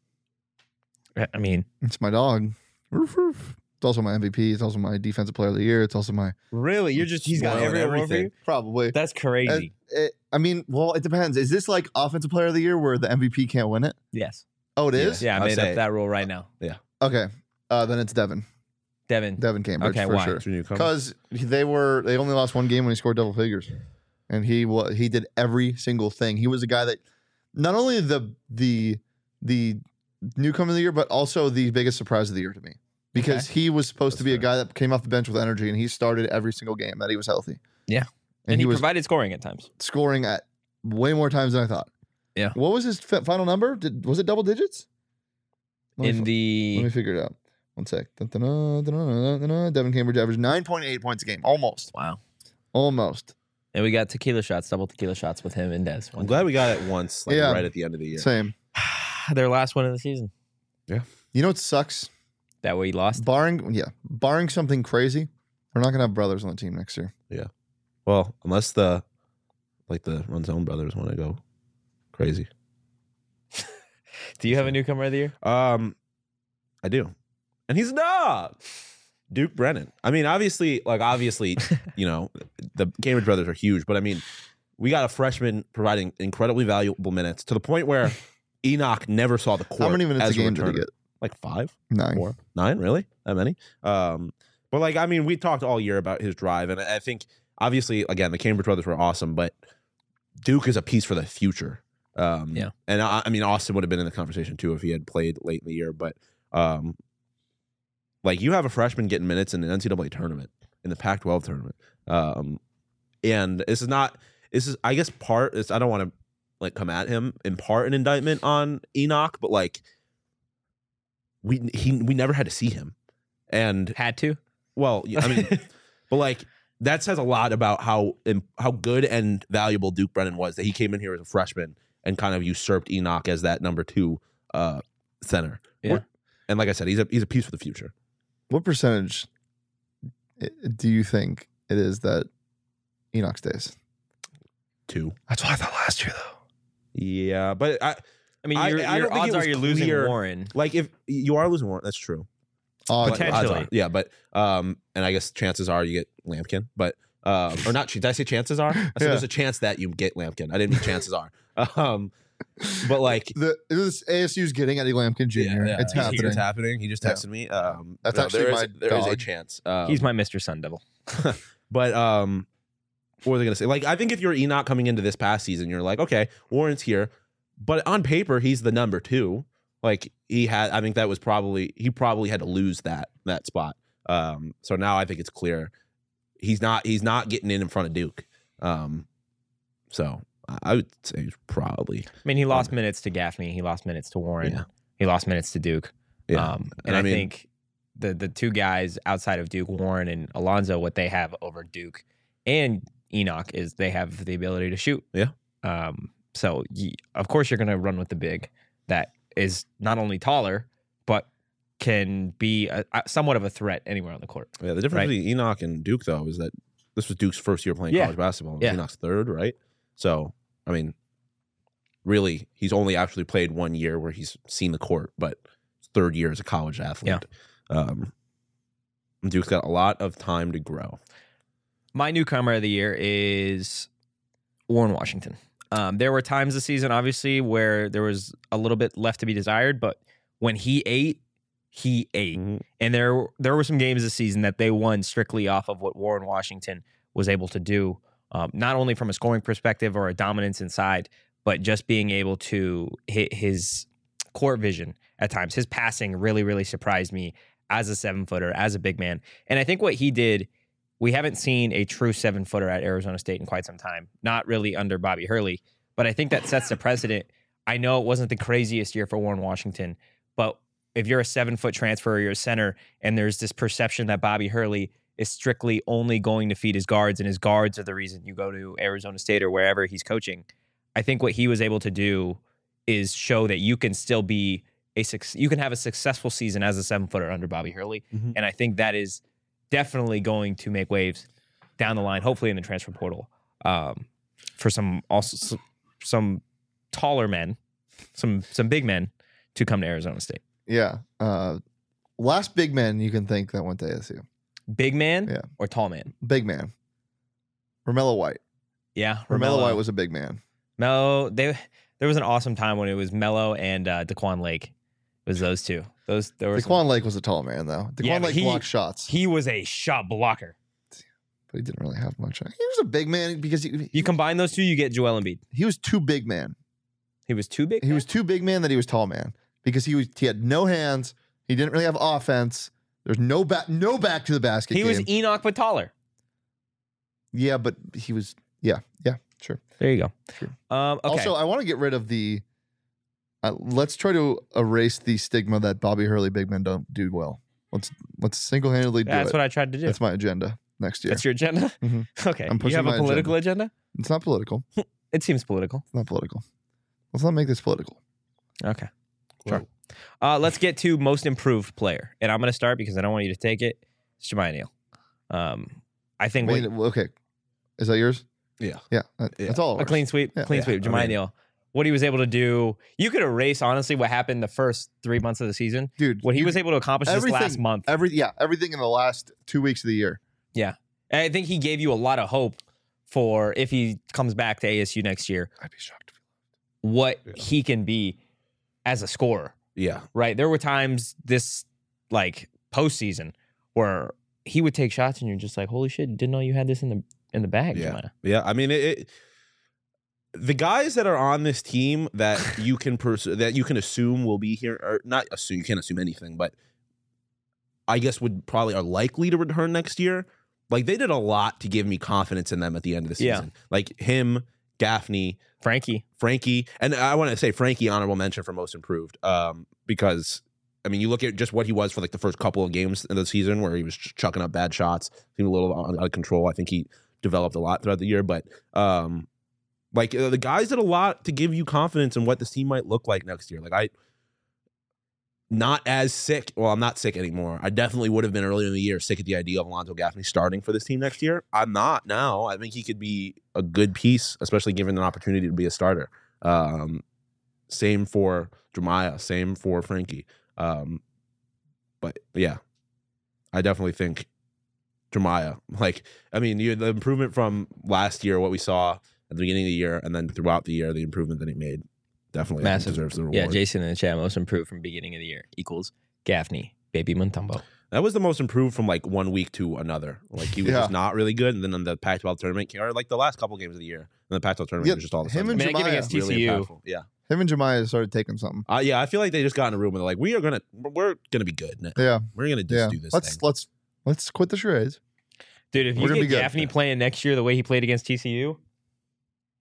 I I mean, It's my dog. Roof, roof. It's also my M V P. It's also my defensive player of the year. It's also my really, you're just he's got Spoiling every award for everything. you. probably. That's crazy. Uh, it- I mean, well, it depends. Is this like offensive player of the year where the M V P can't win it? yes. Oh, it is. Yeah, I I'd made say- up that rule right now. Okay. Uh, then it's Devin. Devin. Devin Cambridge. Okay, for why? sure. That's your newcomer. Because they were they only lost one game when he scored double figures, and he wa he did every single thing. He was a guy that not only the the the newcomer of the year, but also the biggest surprise of the year to me, because he was supposed That's to be a fair. guy that came off the bench with energy, and he started every single game that he was healthy. Yeah. and, And, he, he, was provided scoring at times. scoring at way more times than I thought. Yeah. What was his fi- final number? Did was it double digits? Let me In fi- let the me figure it out. One sec. Dun-dun-dun, dun-dun-dun, dun-dun. Devin Cambridge averaged nine point eight points a game, almost, wow. almost. And we got tequila shots, double tequila shots with him and Des. I'm glad we got it once, like Yeah. right at the end of the year. Same. Their last one of the season. You know what sucks? That way he lost. Barring yeah, barring something crazy, we're not gonna have brothers on the team next year. Well, unless the like the Runzone brothers want to go crazy. Do you have a newcomer of the year? Um, I do, and he's a dog. Duke Brennan. I mean, obviously, like obviously, you know, the Cambridge brothers are huge, but I mean, we got a freshman providing incredibly valuable minutes to the point where Enoch never saw the court. How many minutes as a game did he returner. get? Like five, Nine. four, nine, really? That many? Um, but like, I mean, we talked all year about his drive, and I think obviously, again, the Cambridge brothers were awesome, but Duke is a piece for the future. Um, Yeah. and I, I mean, Austin would have been in the conversation too if he had played late in the year, but um, like you have a freshman getting minutes in the N C double A tournament, in the Pac twelve tournament, um, and this is not. This is, I guess, part. It's, I don't want to like come at him in part an indictment on Enoch, but like we he we never had to see him, and Had to. well, I mean, but like that says a lot about how how good and valuable Duke Brennan was, that he came in here as a freshman and kind of usurped Enoch as that number two uh, center. Yeah. And like I said, he's a he's a piece for the future. What percentage i- do you think it is that Enoch stays? Two. That's what I thought last year, though. Yeah, but I I mean, I- your, I your don't think odds it are was you're losing clear. Warren. like if you are losing Warren, that's true. Oh, But odds Potentially. are- yeah, but um, and I guess chances are you get Lampkin, but um, or not. Did I say chances are? I said Yeah. there's a chance that you get Lampkin. I didn't mean chances are. Um, but like the this A S U's getting Eddie Lampkin Junior Yeah, yeah. It's He's- happening. It's happening. He just Yeah. texted me. Um, That's no, actually there is- my there is a dog. chance. Um, He's my Mister Sun Devil. But um, what was I gonna say? Like, I think if you're Enoch coming into this past season, you're like, okay, Warren's here, but on paper he's the number two. Like he had, I think that was probably he probably had to lose that that spot. Um, so now I think it's clear he's not he's not getting in in front of Duke. Um, so I would say probably. I mean, he lost um, minutes to Gaffney. He lost minutes to Warren. Yeah. He lost minutes to Duke. Yeah. Um, and, and I, I mean, think the the two guys outside of Duke, Warren and Alonzo, what they have over Duke and Enoch is they have the ability to shoot. Yeah. Um, so, you, of course, you're going to run with the big that is not only taller, but can be a, a, somewhat of a threat anywhere on the court. Yeah, the difference right? between Enoch and Duke, though, is that this was Duke's first year playing yeah. college basketball. Yeah. Enoch's third, right? So, I mean, really, he's only actually played one year where he's seen the court, but third year as a college athlete. Yeah. Um, Duke's got a lot of time to grow. My newcomer of the year is Warren Washington. Um, there were times this season, obviously, where there was a little bit left to be desired, but when he ate, he ate. Mm-hmm. And there, there were some games this season that they won strictly off of what Warren Washington was able to do, um, not only from a scoring perspective or a dominance inside, but just being able to hit his court vision at times. His passing really, really surprised me as a seven-footer, as a big man. And I think what he did, we haven't seen a true seven-footer at Arizona State in quite some time, not really under Bobby Hurley, but I think that sets the precedent. I know it wasn't the craziest year for Warren Washington, but if you're a seven-foot transfer or you're a center and there's this perception that Bobby Hurley is strictly only going to feed his guards and his guards are the reason you go to Arizona State or wherever he's coaching, I think what he was able to do is show that you can still be a you can have a successful season as a seven-footer under Bobby Hurley, mm-hmm. and I think that is definitely going to make waves down the line, hopefully in the transfer portal, um, for some also some taller men, some some big men to come to Arizona State. Yeah. Uh, last big man you can think that went to A S U. Big man yeah. or tall man? Big man. Romello White. Yeah. Romello White was a big man. Melo, they there was an awesome time when it was Melo and uh, Daquan Lake. It was those two. Those there was Daquan Lake was a tall man though. Daquan yeah, Lake he, blocked shots. He was a shot blocker. But he didn't really have much. He was a big man because he, he you combine those two, you get Joel Embiid. He was too big man. He was too big. He man? was too big man that he was tall man because he was he had no hands. He didn't really have offense. There's no back no back to the basket. He game. was Enoch but taller. Yeah, but he was yeah yeah sure. There you go. Sure. Um, okay. Also, I want to get rid of the. Uh, let's try to erase the stigma that Bobby Hurley big men don't do well. Let's let's single handedly do That's it. That's what I tried to do. That's my agenda next year. That's your agenda. Mm-hmm. Okay. I'm pushing you have a my political agenda. agenda? It's not political. It seems political. It's not political. Let's not make this political. Okay. Sure. Uh, let's get to most improved player, and I'm going to start because I don't want you to take it. It's Jemiah Neal. Um, I think. Wait, what, okay. Is that yours? Yeah. Yeah. That, yeah. That's all. A clean sweep. Yeah. Clean yeah. sweep. Jemiah I mean, Neal. What he was able to do. You could erase honestly what happened the first three months of the season, dude. What he was able to accomplish this last month. Every yeah, everything in the last two weeks of the year. Yeah, and I think he gave you a lot of hope for if he comes back to A S U next year. I'd be shocked. What yeah. he can be as a scorer. Yeah. Right. There were times this like postseason where he would take shots and you're just like, holy shit, didn't know you had this in the in the bag. Yeah. Jemiah. Yeah. I mean, it, it. The guys that are on this team that you can pers- that you can assume will be here, or not assume, you can't assume anything, but I guess would probably are likely to return next year. Like they did a lot to give me confidence in them at the end of the season. Yeah. Like him, Gaffney, Frankie, Frankie, and I want to say Frankie honorable mention for most improved, um, because I mean you look at just what he was for like the first couple of games in the season where he was ch- chucking up bad shots, seemed a little out of control. I think he developed a lot throughout the year, but. Um, Like uh, the guys did a lot to give you confidence in what this team might look like next year. Like I, not as sick. Well, I'm not sick anymore. I definitely would have been earlier in the year sick at the idea of Alonzo Gaffney starting for this team next year. I'm not now. I think he could be a good piece, especially given an opportunity to be a starter. Um, same for Jemiah. Same for Frankie. Um, but yeah, I definitely think Jemiah. Like I mean, you, the improvement from last year, what we saw at the beginning of the year, and then throughout the year, the improvement that he made definitely massive deserves the reward. Yeah, Jason in the chat, most improved from beginning of the year equals Gaffney, Baby Mutombo. That was the most improved from like one week to another. Like he was Yeah. just not really good, and then on the Pac twelve tournament, or like the last couple games of the year, and the Pac twelve tournament Yeah, was just all the him sudden and I mean, I give Jemiah, against T C really U. impactful. Yeah, Him and Jemiah started taking something. uh, yeah. I feel like they just got in a room and they're like, "We are gonna, we're gonna be good. Now. Yeah, We're gonna just yeah. do this let's thing." let's let's quit the charades. Dude, if We're you gonna get be good. Gaffney playing next year the way he played against T C U,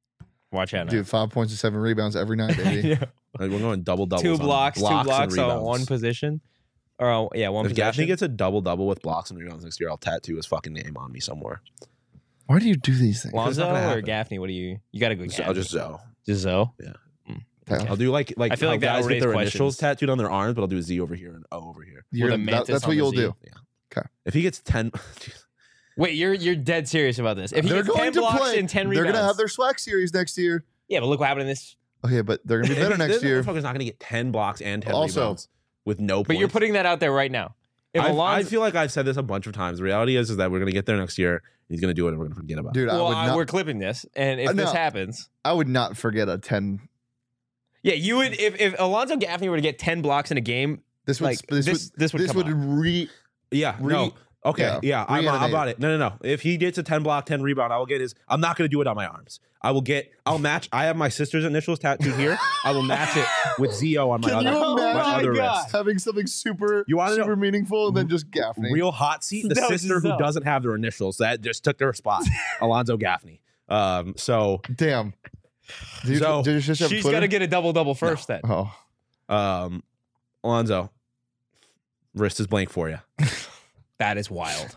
Watch out now. Dude, five points and seven rebounds every night, baby. Yeah. Like, we're going double double. Two blocks, blocks two blocks and on rebounds. one position. Or uh, yeah, one If possession. Gaffney gets a double double with blocks and rebounds next year, I'll tattoo his fucking name on me somewhere. Why do you do these things? Because it's Lonzo not gonna or happen. Gaffney? What do you? You got to go. So Gaffney. I'll just Zoe. Just Zoe. Okay. I'll do like like I feel how like that'll guys get raise their questions. initials tattooed on their arms, but I'll do a Z over here and O over here. You're With a gonna- that- mantis that's on what the you'll Z. do. If he gets ten, Wait, you're you're dead serious about this? If he They're gets ten going to blocks play. and ten They're rebounds, gonna have their swag series next year. yeah, but look what happened in this. Okay, but they're gonna be better next this year. motherfucker's not gonna get ten blocks and ten Also- rebounds with no. But you're points. putting that out there right now. If I've- I Alonzo, feel like I've said this a bunch of times. The reality is, is that we're gonna get there next year. He's gonna do it, and we're gonna forget about it. Dude, I well, would I- not. we're clipping this, and if Uh, this no. happens, I would not forget a ten. yeah, you would. If if Alonzo Gaffney were to get ten blocks in a game, This would. Like, this, this- would. this would This come would out. re. Yeah, Re- no. Okay, yeah, yeah, I'm, I'm reanimate. about it. No, no, no. If he gets a ten block, ten rebound, I will get his. I'm not going to do it on my arms. I will get. I'll match. I have my sister's initials tattooed here. I will match it with Z O on my Can other, you my imagine other God. wrist. Having something super, You wanna know- super meaningful, and then just Gaffney. Real hot seat. The That was sister his who self. doesn't have their initials that just took their spot, Alonzo Gaffney. Um. So, Damn. Did you, So, did your sister have she's Twitter? got to get a double double first. Then Oh, um, Alonzo, wrist is blank for you. that is wild.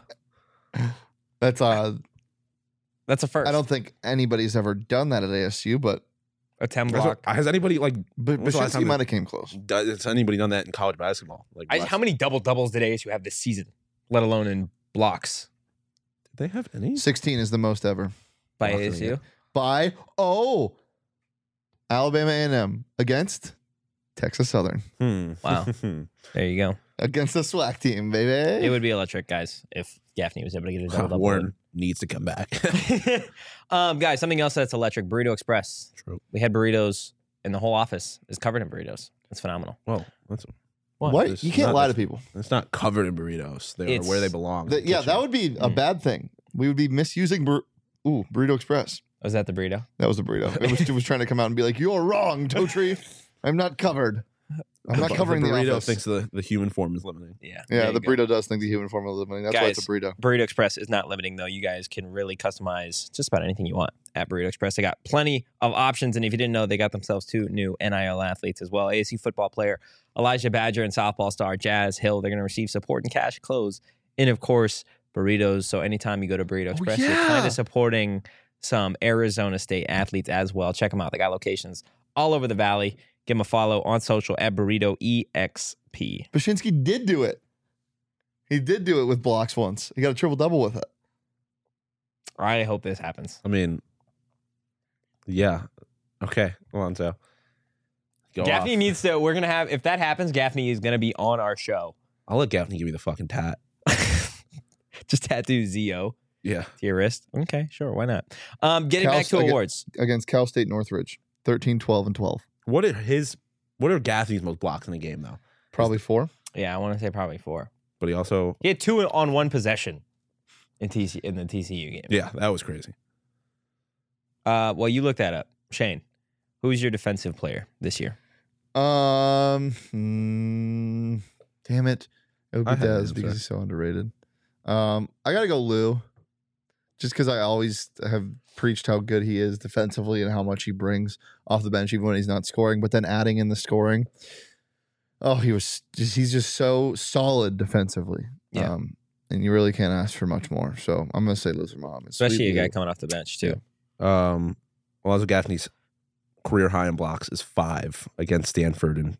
that's uh. That's a first. I don't think anybody's ever done that at A S U, but a ten That's block. what- Has anybody like? but When's the last Bashinsky time might have came close. Does, has anybody done that in college basketball? Like, I, last- how many double doubles did A S U have this season? Let alone in blocks did they have any? Sixteen is the most ever by Not A S doing U. it. by oh, Alabama A and M against Texas Southern Hmm. Wow. There you go. against the SWAC team, baby. It would be electric, guys, if Gaffney was able to get a double double. Warren needs to come back. um, guys, something else that's electric: Burrito Express. True. We had burritos, and the whole office is covered in burritos. It's phenomenal. Well, that's what? This You is can't not lie this- to people. it's not covered in burritos. They It's- are where they belong. That- yeah, that would be a Mm. bad thing. We would be misusing bur- Ooh, Burrito Express. Was that the burrito? That was a burrito. It was, it was trying to come out and be like, "You're wrong, Totri. I'm not covered. I'm not covering the, burrito. office." Thinks the, the human form is limiting. Yeah. yeah, there you the go. burrito does think the human form is limiting. That's why it's a Guys, burrito. Burrito Express is not limiting, though. You guys can really customize just about anything you want at Burrito Express. They got plenty of options. And if you didn't know, they got themselves two new N I L athletes as well. A S U football player Elijah Badger and softball star Jazz Hill. They're going to receive support and cash clothes. And of course, burritos. So anytime you go to Burrito Express, you're yeah. kind of supporting some Arizona State athletes as well. Check them out. They got locations all over the valley. Give them a follow on social at Burrito E X P. Bashinsky did do it. He did do it with blocks once. He got a triple double with it. I hope this happens. I mean, yeah. Okay, Alonzo. Go Gaffney off. needs to. We're gonna have. If that happens, Gaffney is gonna be on our show. I'll let Gaffney give me the fucking tat. Just tattoo Z O Yeah. to your wrist. Okay, sure, why not? Um, getting Cal- back to again- awards. Against Cal State Northridge. thirteen, twelve, and twelve. What are his? What are Gaffney's most blocks in a game though? Probably four. Yeah, I want to say probably four. But he also, He had two on one possession in T C in the T C U game. yeah, that was crazy. Uh, well, you looked that up, Shane. Who's your defensive player this year? Um, hmm, damn it. It would I be had an Dez answer. because he's so underrated. Um, I got to go Lou just because I always have preached how good he is defensively and how much he brings off the bench, even when he's not scoring. But then adding in the scoring, oh, he was just, he's just so solid defensively. Yeah. Um, and you really can't ask for much more. So I'm going to say Loser Mom. Especially a guy coming off the bench too. Um, Alonzo Gaffney's career high in blocks is five against Stanford in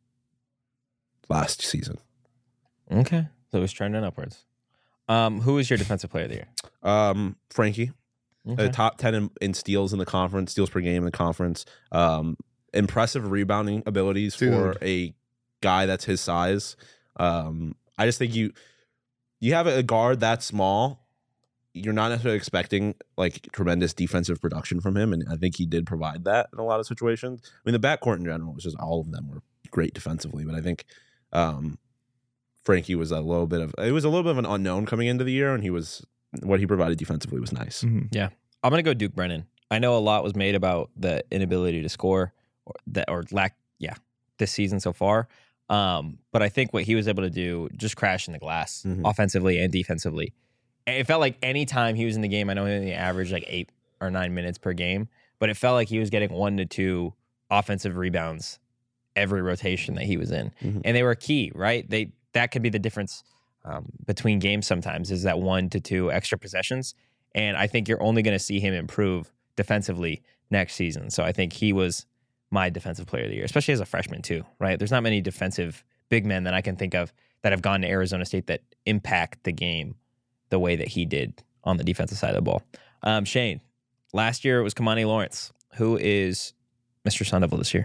last season. Okay, so he's trending upwards. Um, who is your defensive player of the year? Um, Frankie, Okay. uh, top ten in, in steals in the conference, steals per game in the conference. Um, impressive rebounding abilities for Dude. a guy that's his size. Um, I just think you you have a guard that small. You're not necessarily expecting like tremendous defensive production from him, and I think he did provide that in a lot of situations. I mean, the backcourt in general was just all of them were great defensively, but I think um, Frankie was a little bit of it was a little bit of an unknown coming into the year, and he was what he provided defensively was nice. Mhm. I'm gonna go Duke Brennan. I know a lot was made about the inability to score, or that or lack, yeah, this season so far. Um, but I think what he was able to do, just crashing the glass Mhm. offensively and defensively. It felt like any time he was in the game, I know he only averaged like eight or nine minutes per game, but it felt like he was getting one to two offensive rebounds every rotation that he was in. Mhm. And they were key, right? They that could be the difference um, between games sometimes is that one to two extra possessions. And I think you're only going to see him improve defensively next season. So I think he was my defensive player of the year, especially as a freshman too, right? There's not many defensive big men that I can think of that have gone to Arizona State that impact the game the way that he did on the defensive side of the ball. Um, Shane, last year it was Kamani Lawrence. Who is Mister Sun Devil this year?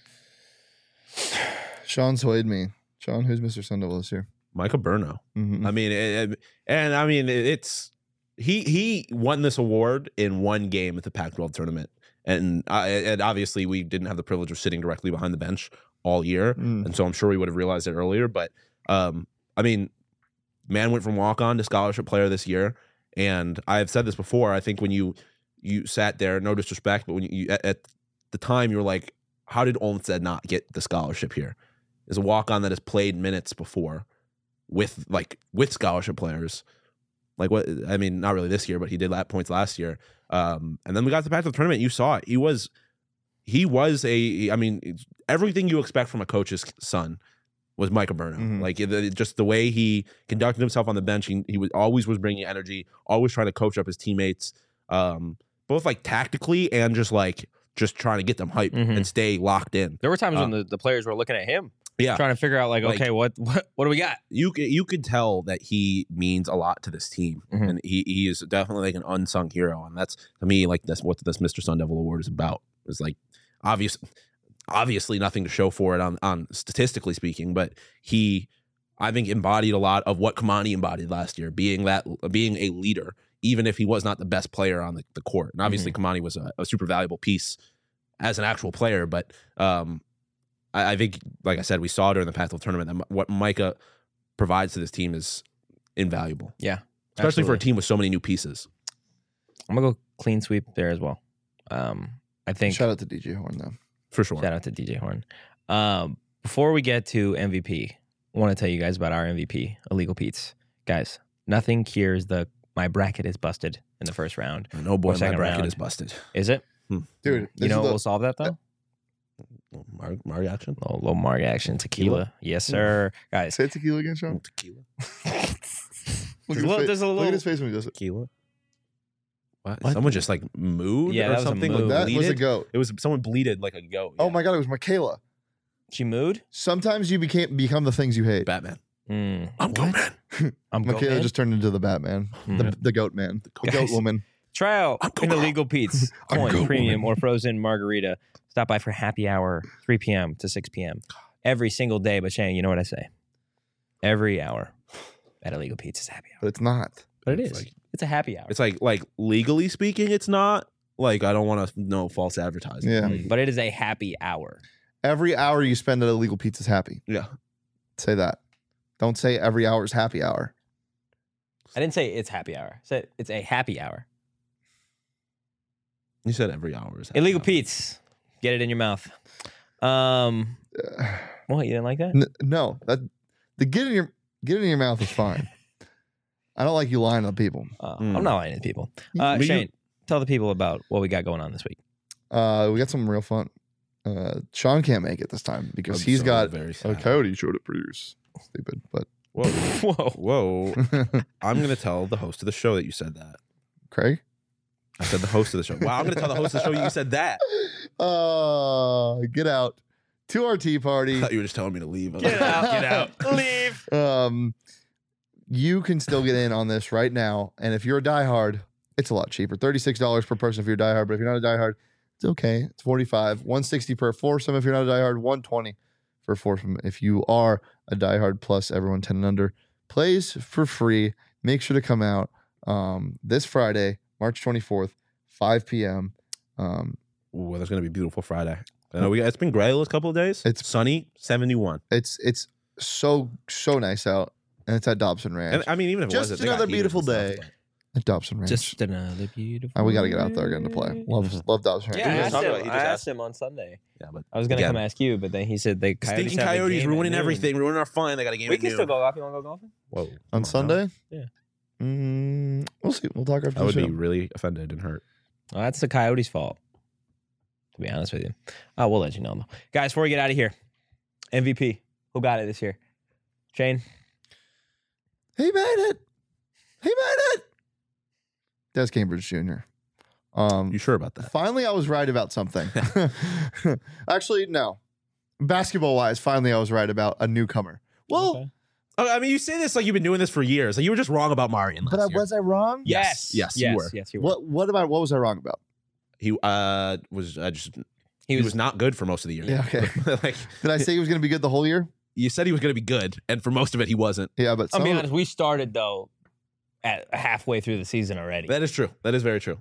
Sean swayed me. Sean, who's Mister Sun Devil this year? Micah Burno. Mm-hmm. I mean, it, it- and I mean, it- it's he he won this award in one game at the Pac twelve tournament, and I, and obviously we didn't have the privilege of sitting directly behind the bench all year, Mm. and so I'm sure we would have realized it earlier. But um, I mean, man went from walk on to scholarship player this year, and I've said this before. I think when you you sat there, no disrespect, but when you, you at, at the time you were like, how did Olmsted not get the scholarship here? Is a walk on that has played minutes before with like with scholarship players. Like what I mean, not really this year, but he did lap points last year. Um, and then we got to the Pac twelve tournament. You saw it. He was, he was a. I mean, it's everything you expect from a coach's son was Micah Burno. Mhm. Like it, it- just the way he conducted himself on the bench. He, he was always was bringing energy, always trying to coach up his teammates, um, both like tactically and just like just trying to get them hyped Mhm. and stay locked in. There were times Uh, when the, the players were looking at him, Yeah, trying to figure out like, Like- okay, what, what what do we got? you c- you could tell that he means a lot to this team, Mhm. and he he is definitely like an unsung hero, and that's to me like that's what this Mister Sun Devil Award is about. It's like obvious, obviously nothing to show for it on on statistically speaking, but he I think embodied a lot of what Kamani embodied last year, being that being a leader, even if he was not the best player on the, the court. And obviously Kamani was a, a super valuable piece as an actual player, but um, I, I think, like I said, we saw during the Pac twelve tournament that m- what Micah provides to this team is invaluable, Yeah, especially for a absolutely. team with so many new pieces. I'm gonna go clean sweep there as well. Um, I think Shout out to D J Horn though. For sure. shout out to D J Horn. Um, before we get to M V P, I want to tell you guys about our M V P, Illegal Pete's. Guys, nothing cures the my bracket is busted in the first round. No boy, Or my second bracket round. is busted. Is it? Dude, You this know is what the- will solve that though? Mar- Mari action? A little Marg action, tequila. Yes, sir. Guys, Say tequila again, Sean. Tequila. Look, There's at a his little- fa- there's a look little- at his face when he does it. Tequila. What? What? Someone just like mooed Yeah, or that was a something? mood. Like That was a bleated? goat. It was someone bleated like a goat. Oh yeah. my god, it was Michaela. she mood. Sometimes you became become the things you hate. Batman. Mm, I'm goat man. I'm Michaela going. just turned into the Batman, the, Mhm. the goat man, the goat. goat Guys. woman. Try out I'm an going- Illegal Pete's I'm coin going, premium woman. or frozen margarita. Stop by for happy hour, three p.m. to six p.m. every single day. But Shane, you know what I say? Every hour at Illegal Pete's is happy hour. But it's not. But it It's is. like- It's a happy hour. It's like like legally speaking, it's not. Like I don't want to know false advertising. Yeah. Like, But it is a happy hour. Every hour you spend at Illegal Pete's is happy. yeah. Say that. Don't say every hour is happy hour. I didn't say it's happy hour. I said it's a happy hour. You said every hour is happy Illegal hour. Pete's. Get it in your mouth. Um, Uh, what? You didn't like that? N- no, that the get in your get it in your mouth is fine. I don't like you lying to people. Uh, Mm. I'm not lying to people. Uh, But you- Shane, tell the people about what we got going on this week. Uh, we got something real fun. Uh, Sean can't make it this time because I'm he's so got very a sad. coyote show to produce. Stupid, but Whoa. Whoa. Whoa. I'm going to tell the host of the show that you said that. Craig. I said the host of the show. Wow, I'm going to tell the host of the show you said that. Uh, get out to our tea I party. thought you were just telling me to leave. I was Get like, out. Get out. Leave. Um, you can still get in on this right now, and if you're a diehard, it's a lot cheaper. Thirty-six dollars per person if you're a diehard, but if you're not a diehard, it's okay. It's forty-five. One sixty per foursome if you're not a diehard. One twenty for foursome if you are a diehard. Plus everyone ten and under plays for free. Make sure to come out um, this Friday, March twenty-fourth, five p.m. Um, Ooh, that's going to be a beautiful Friday. I know we got, it's been gray the last couple of days. It's- sunny, seventy-one. it's it's so so nice out, and it's at Dobson Ranch. And I mean, even if it Just wasn't, they got another heaters beautiful and stuff, day. At Dobson Ranch. Just another beautiful. Uh, we got to get out there again to play. Love, love Dobson Ranch. Yeah, I He just asked, talked him, about it. He I just asked asked. him on Sunday. but- Yeah, but I was gonna Again. come ask you, but then he said the the Coyotes stinking have a coyotes game at ruining noon. everything, ruining our fun. They got a game. We at can noon. still go golf. You want to go golfing? Whoa. On Come now. Sunday? Yeah. Mm, we'll see. We'll talk after I would the be show. really offended and hurt. Well, that's the Coyotes' fault. to be honest with you. Uh, we'll let you know, though. Guys, before we get out of here, M V P. Who got it this year? Shane? He made it. He made it. Des Cambridge Junior Um, You sure about that? Finally, I was right about something. Actually, no. Basketball wise, finally, I was right about a newcomer. Well, Okay. Oh, I mean, you say this like you've been doing this for years. Like you were just wrong about Marion last but I, year. was I wrong? Yes. Yes, you yes, were. Yes, you were. What What about what was I wrong about? He uh was uh, just He he was, was not good for most of the year. Yeah, okay. Like Did I say he was going to be good the whole year? you said he was going to be good, and for most of it, he wasn't. Yeah, but I'll some be of- honest, we started, though, at halfway through the season already. That is true. That is very true.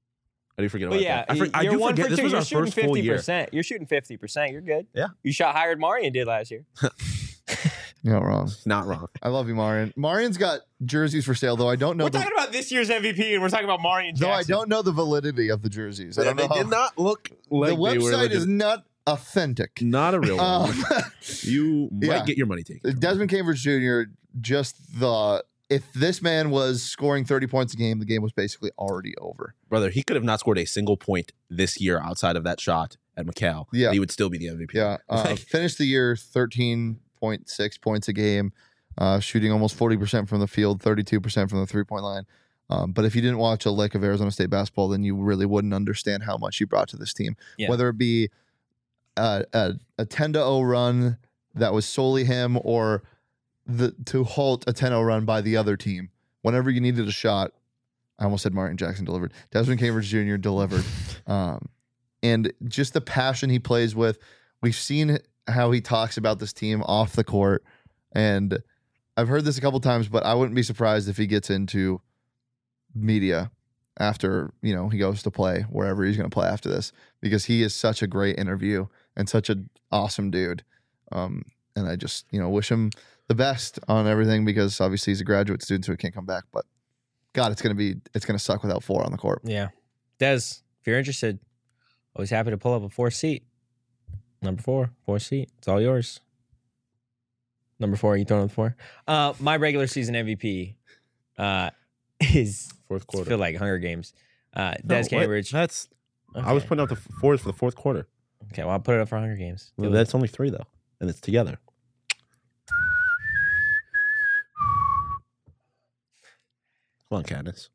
I do forget But about yeah, that. I, for, I you're do one forget for this two. was You're our shooting first full fifty year. percent. You're shooting fifty percent. You're good. Yeah. You shot higher than Marion did last year. You're not wrong. Not wrong. I love you, Marion. Marion's got jerseys for sale, though I don't know. We're the, talking about this year's M V P, and we're talking about Marion though I Jackson. don't know the validity of the jerseys. I don't they know. How, did not look like the they were website legit- is not authentic. not a real one. Um, You might yeah. get your money taken. Desmond Cambridge Junior Just the if this man was scoring thirty points a game, the game was basically already over. Brother, he could have not scored a single point this year outside of that shot at McCall. Yeah. and he would still be the M V P. Yeah, uh, Like, finished the year thirteen point six points a game, uh, shooting almost forty percent from the field, thirty-two percent from the three point line. Um, but if you didn't watch a lick of Arizona State basketball, then you really wouldn't understand how much he brought to this team. Yeah. Whether it be a, a, a ten to oh run that was solely him, or the to halt a ten oh run by the other team. Whenever you needed a shot, I almost said Martin Jackson delivered. Desmond Cambridge Junior delivered. Um, and just the passion he plays with. We've seen how he talks about this team off the court. And I've heard this a couple times, but I wouldn't be surprised if he gets into media after, you know, he goes to play wherever he's going to play after this, because he is such a great interview and such an awesome dude. Um, and I just, you know, wish him the best on everything, because obviously he's a graduate student, so he can't come back. But God, it's going to be, it's going to suck without four on the court. Yeah. Des, if you're interested, always happy to pull up a four seat. Number four, four seat. It's all yours. Number four, you throwing on the four? Uh, my regular season M V P uh, is, fourth I quarter. feel like Hunger Games. Uh, No, Des what? Cambridge. That's. I was Okay. putting out the fours for the fourth quarter. Okay, well, I'll put it up for Hunger Games. Well, that's only three though, and it's together. Come on, Candace.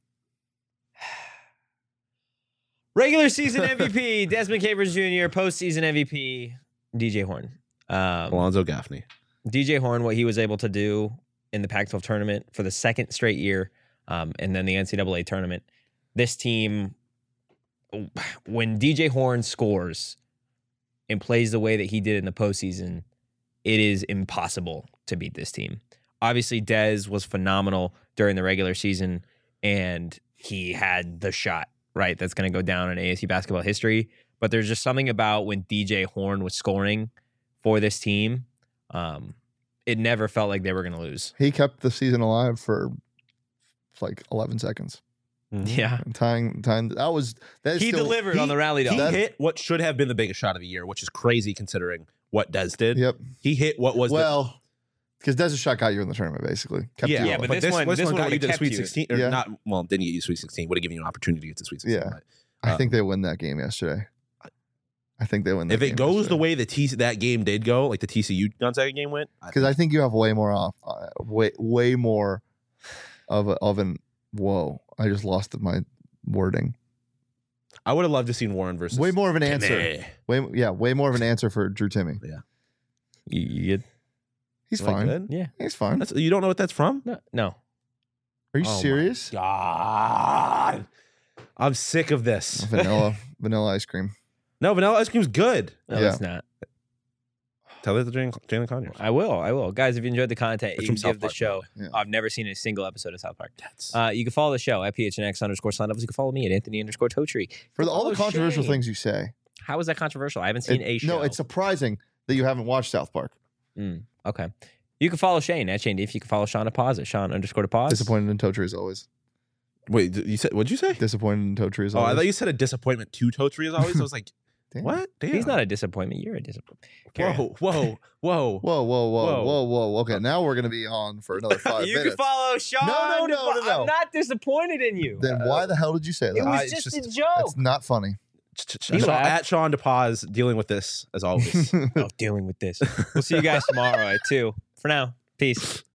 Regular season M V P, Desmond Cambridge Junior Postseason M V P, D J Horn. Um, Alonzo Gaffney. D J Horn, what he was able to do in the Pac twelve tournament for the second straight year, um, and then the N C double A tournament. This team, when D J Horn scores and plays the way that he did in the postseason, it is impossible to beat this team. Obviously, Dez was phenomenal during the regular season, and he had the shot, right? That's going to go down in A S U basketball history. But there's just something about when D J Horn was scoring for this team, um, it never felt like they were going to lose. He kept the season alive for like eleven seconds. Yeah. And tying, tying, that was, that is He still, delivered he- on the rally He dunk. That- hit what should have been the biggest shot of the year, which is crazy considering what Dez did. Yep. He hit what was Well, because Des's shot got you in the tournament, basically. Kept the yeah, you Yeah, alive. but this one- this one got you would've to the kept Sweet you. Sixteen, or Yeah. not? Well, didn't get you to Sweet Sixteen. Would have given you an opportunity to get to Sweet Sixteen. Yeah. but, I uh, think they win that game yesterday. I think they win that if game it goes yesterday. the way the T that game did go, like the T C U Gonzaga game went, I Because I think you have way more off, uh, way way more of a, of an whoa. I just lost my wording. I would have loved to seen Warren versus Way more of an answer. Timmy. Way yeah, way more of an answer for Drew Timmy. You, you good? He's Am I fine. good? Yeah. He's fine. That's, you don't know what that's from? No. No. Are you Oh my serious? God, I'm sick of this. Vanilla vanilla ice cream. No, vanilla ice cream's good. No, Yeah. it's not. Tell that to Jalen, Jalen Conyers. I will. I will. Guys, if you enjoyed the content, It's you from can South give the Park, show. by the way. I've never seen a single episode of South Park. That's Uh, you can follow the show at P H N X underscore sign ups. You can follow me at Anthony underscore Totri. For the, all the Follow controversial Shane. things you say. How is that controversial? I haven't seen It- a show. no, it's surprising that you haven't watched South Park. Mm, okay. You can follow Shane at Shane. If you can follow Sean at pause at Sean underscore to pause. Disappointed in Totri as always. wait. d- You said what'd you say? Disappointed in Totri as Oh, always. I thought you said a disappointment to Totri as always. I was like, Damn. what? Damn. He's not a disappointment. You're a disappointment. Carry on. Whoa, whoa, whoa. Whoa, whoa, whoa, Whoa. whoa, whoa. Okay, now we're gonna be on for another five you minutes. can follow Sean. No, no, no, no, no. I'm not disappointed in you. Then why the hell did you say It that? was Uh, it's just, just- a joke. That's not funny. He Sean, laughed. at Sean DePaz dealing with this as always. Oh, dealing with this. We'll see you guys tomorrow at two. For now, peace.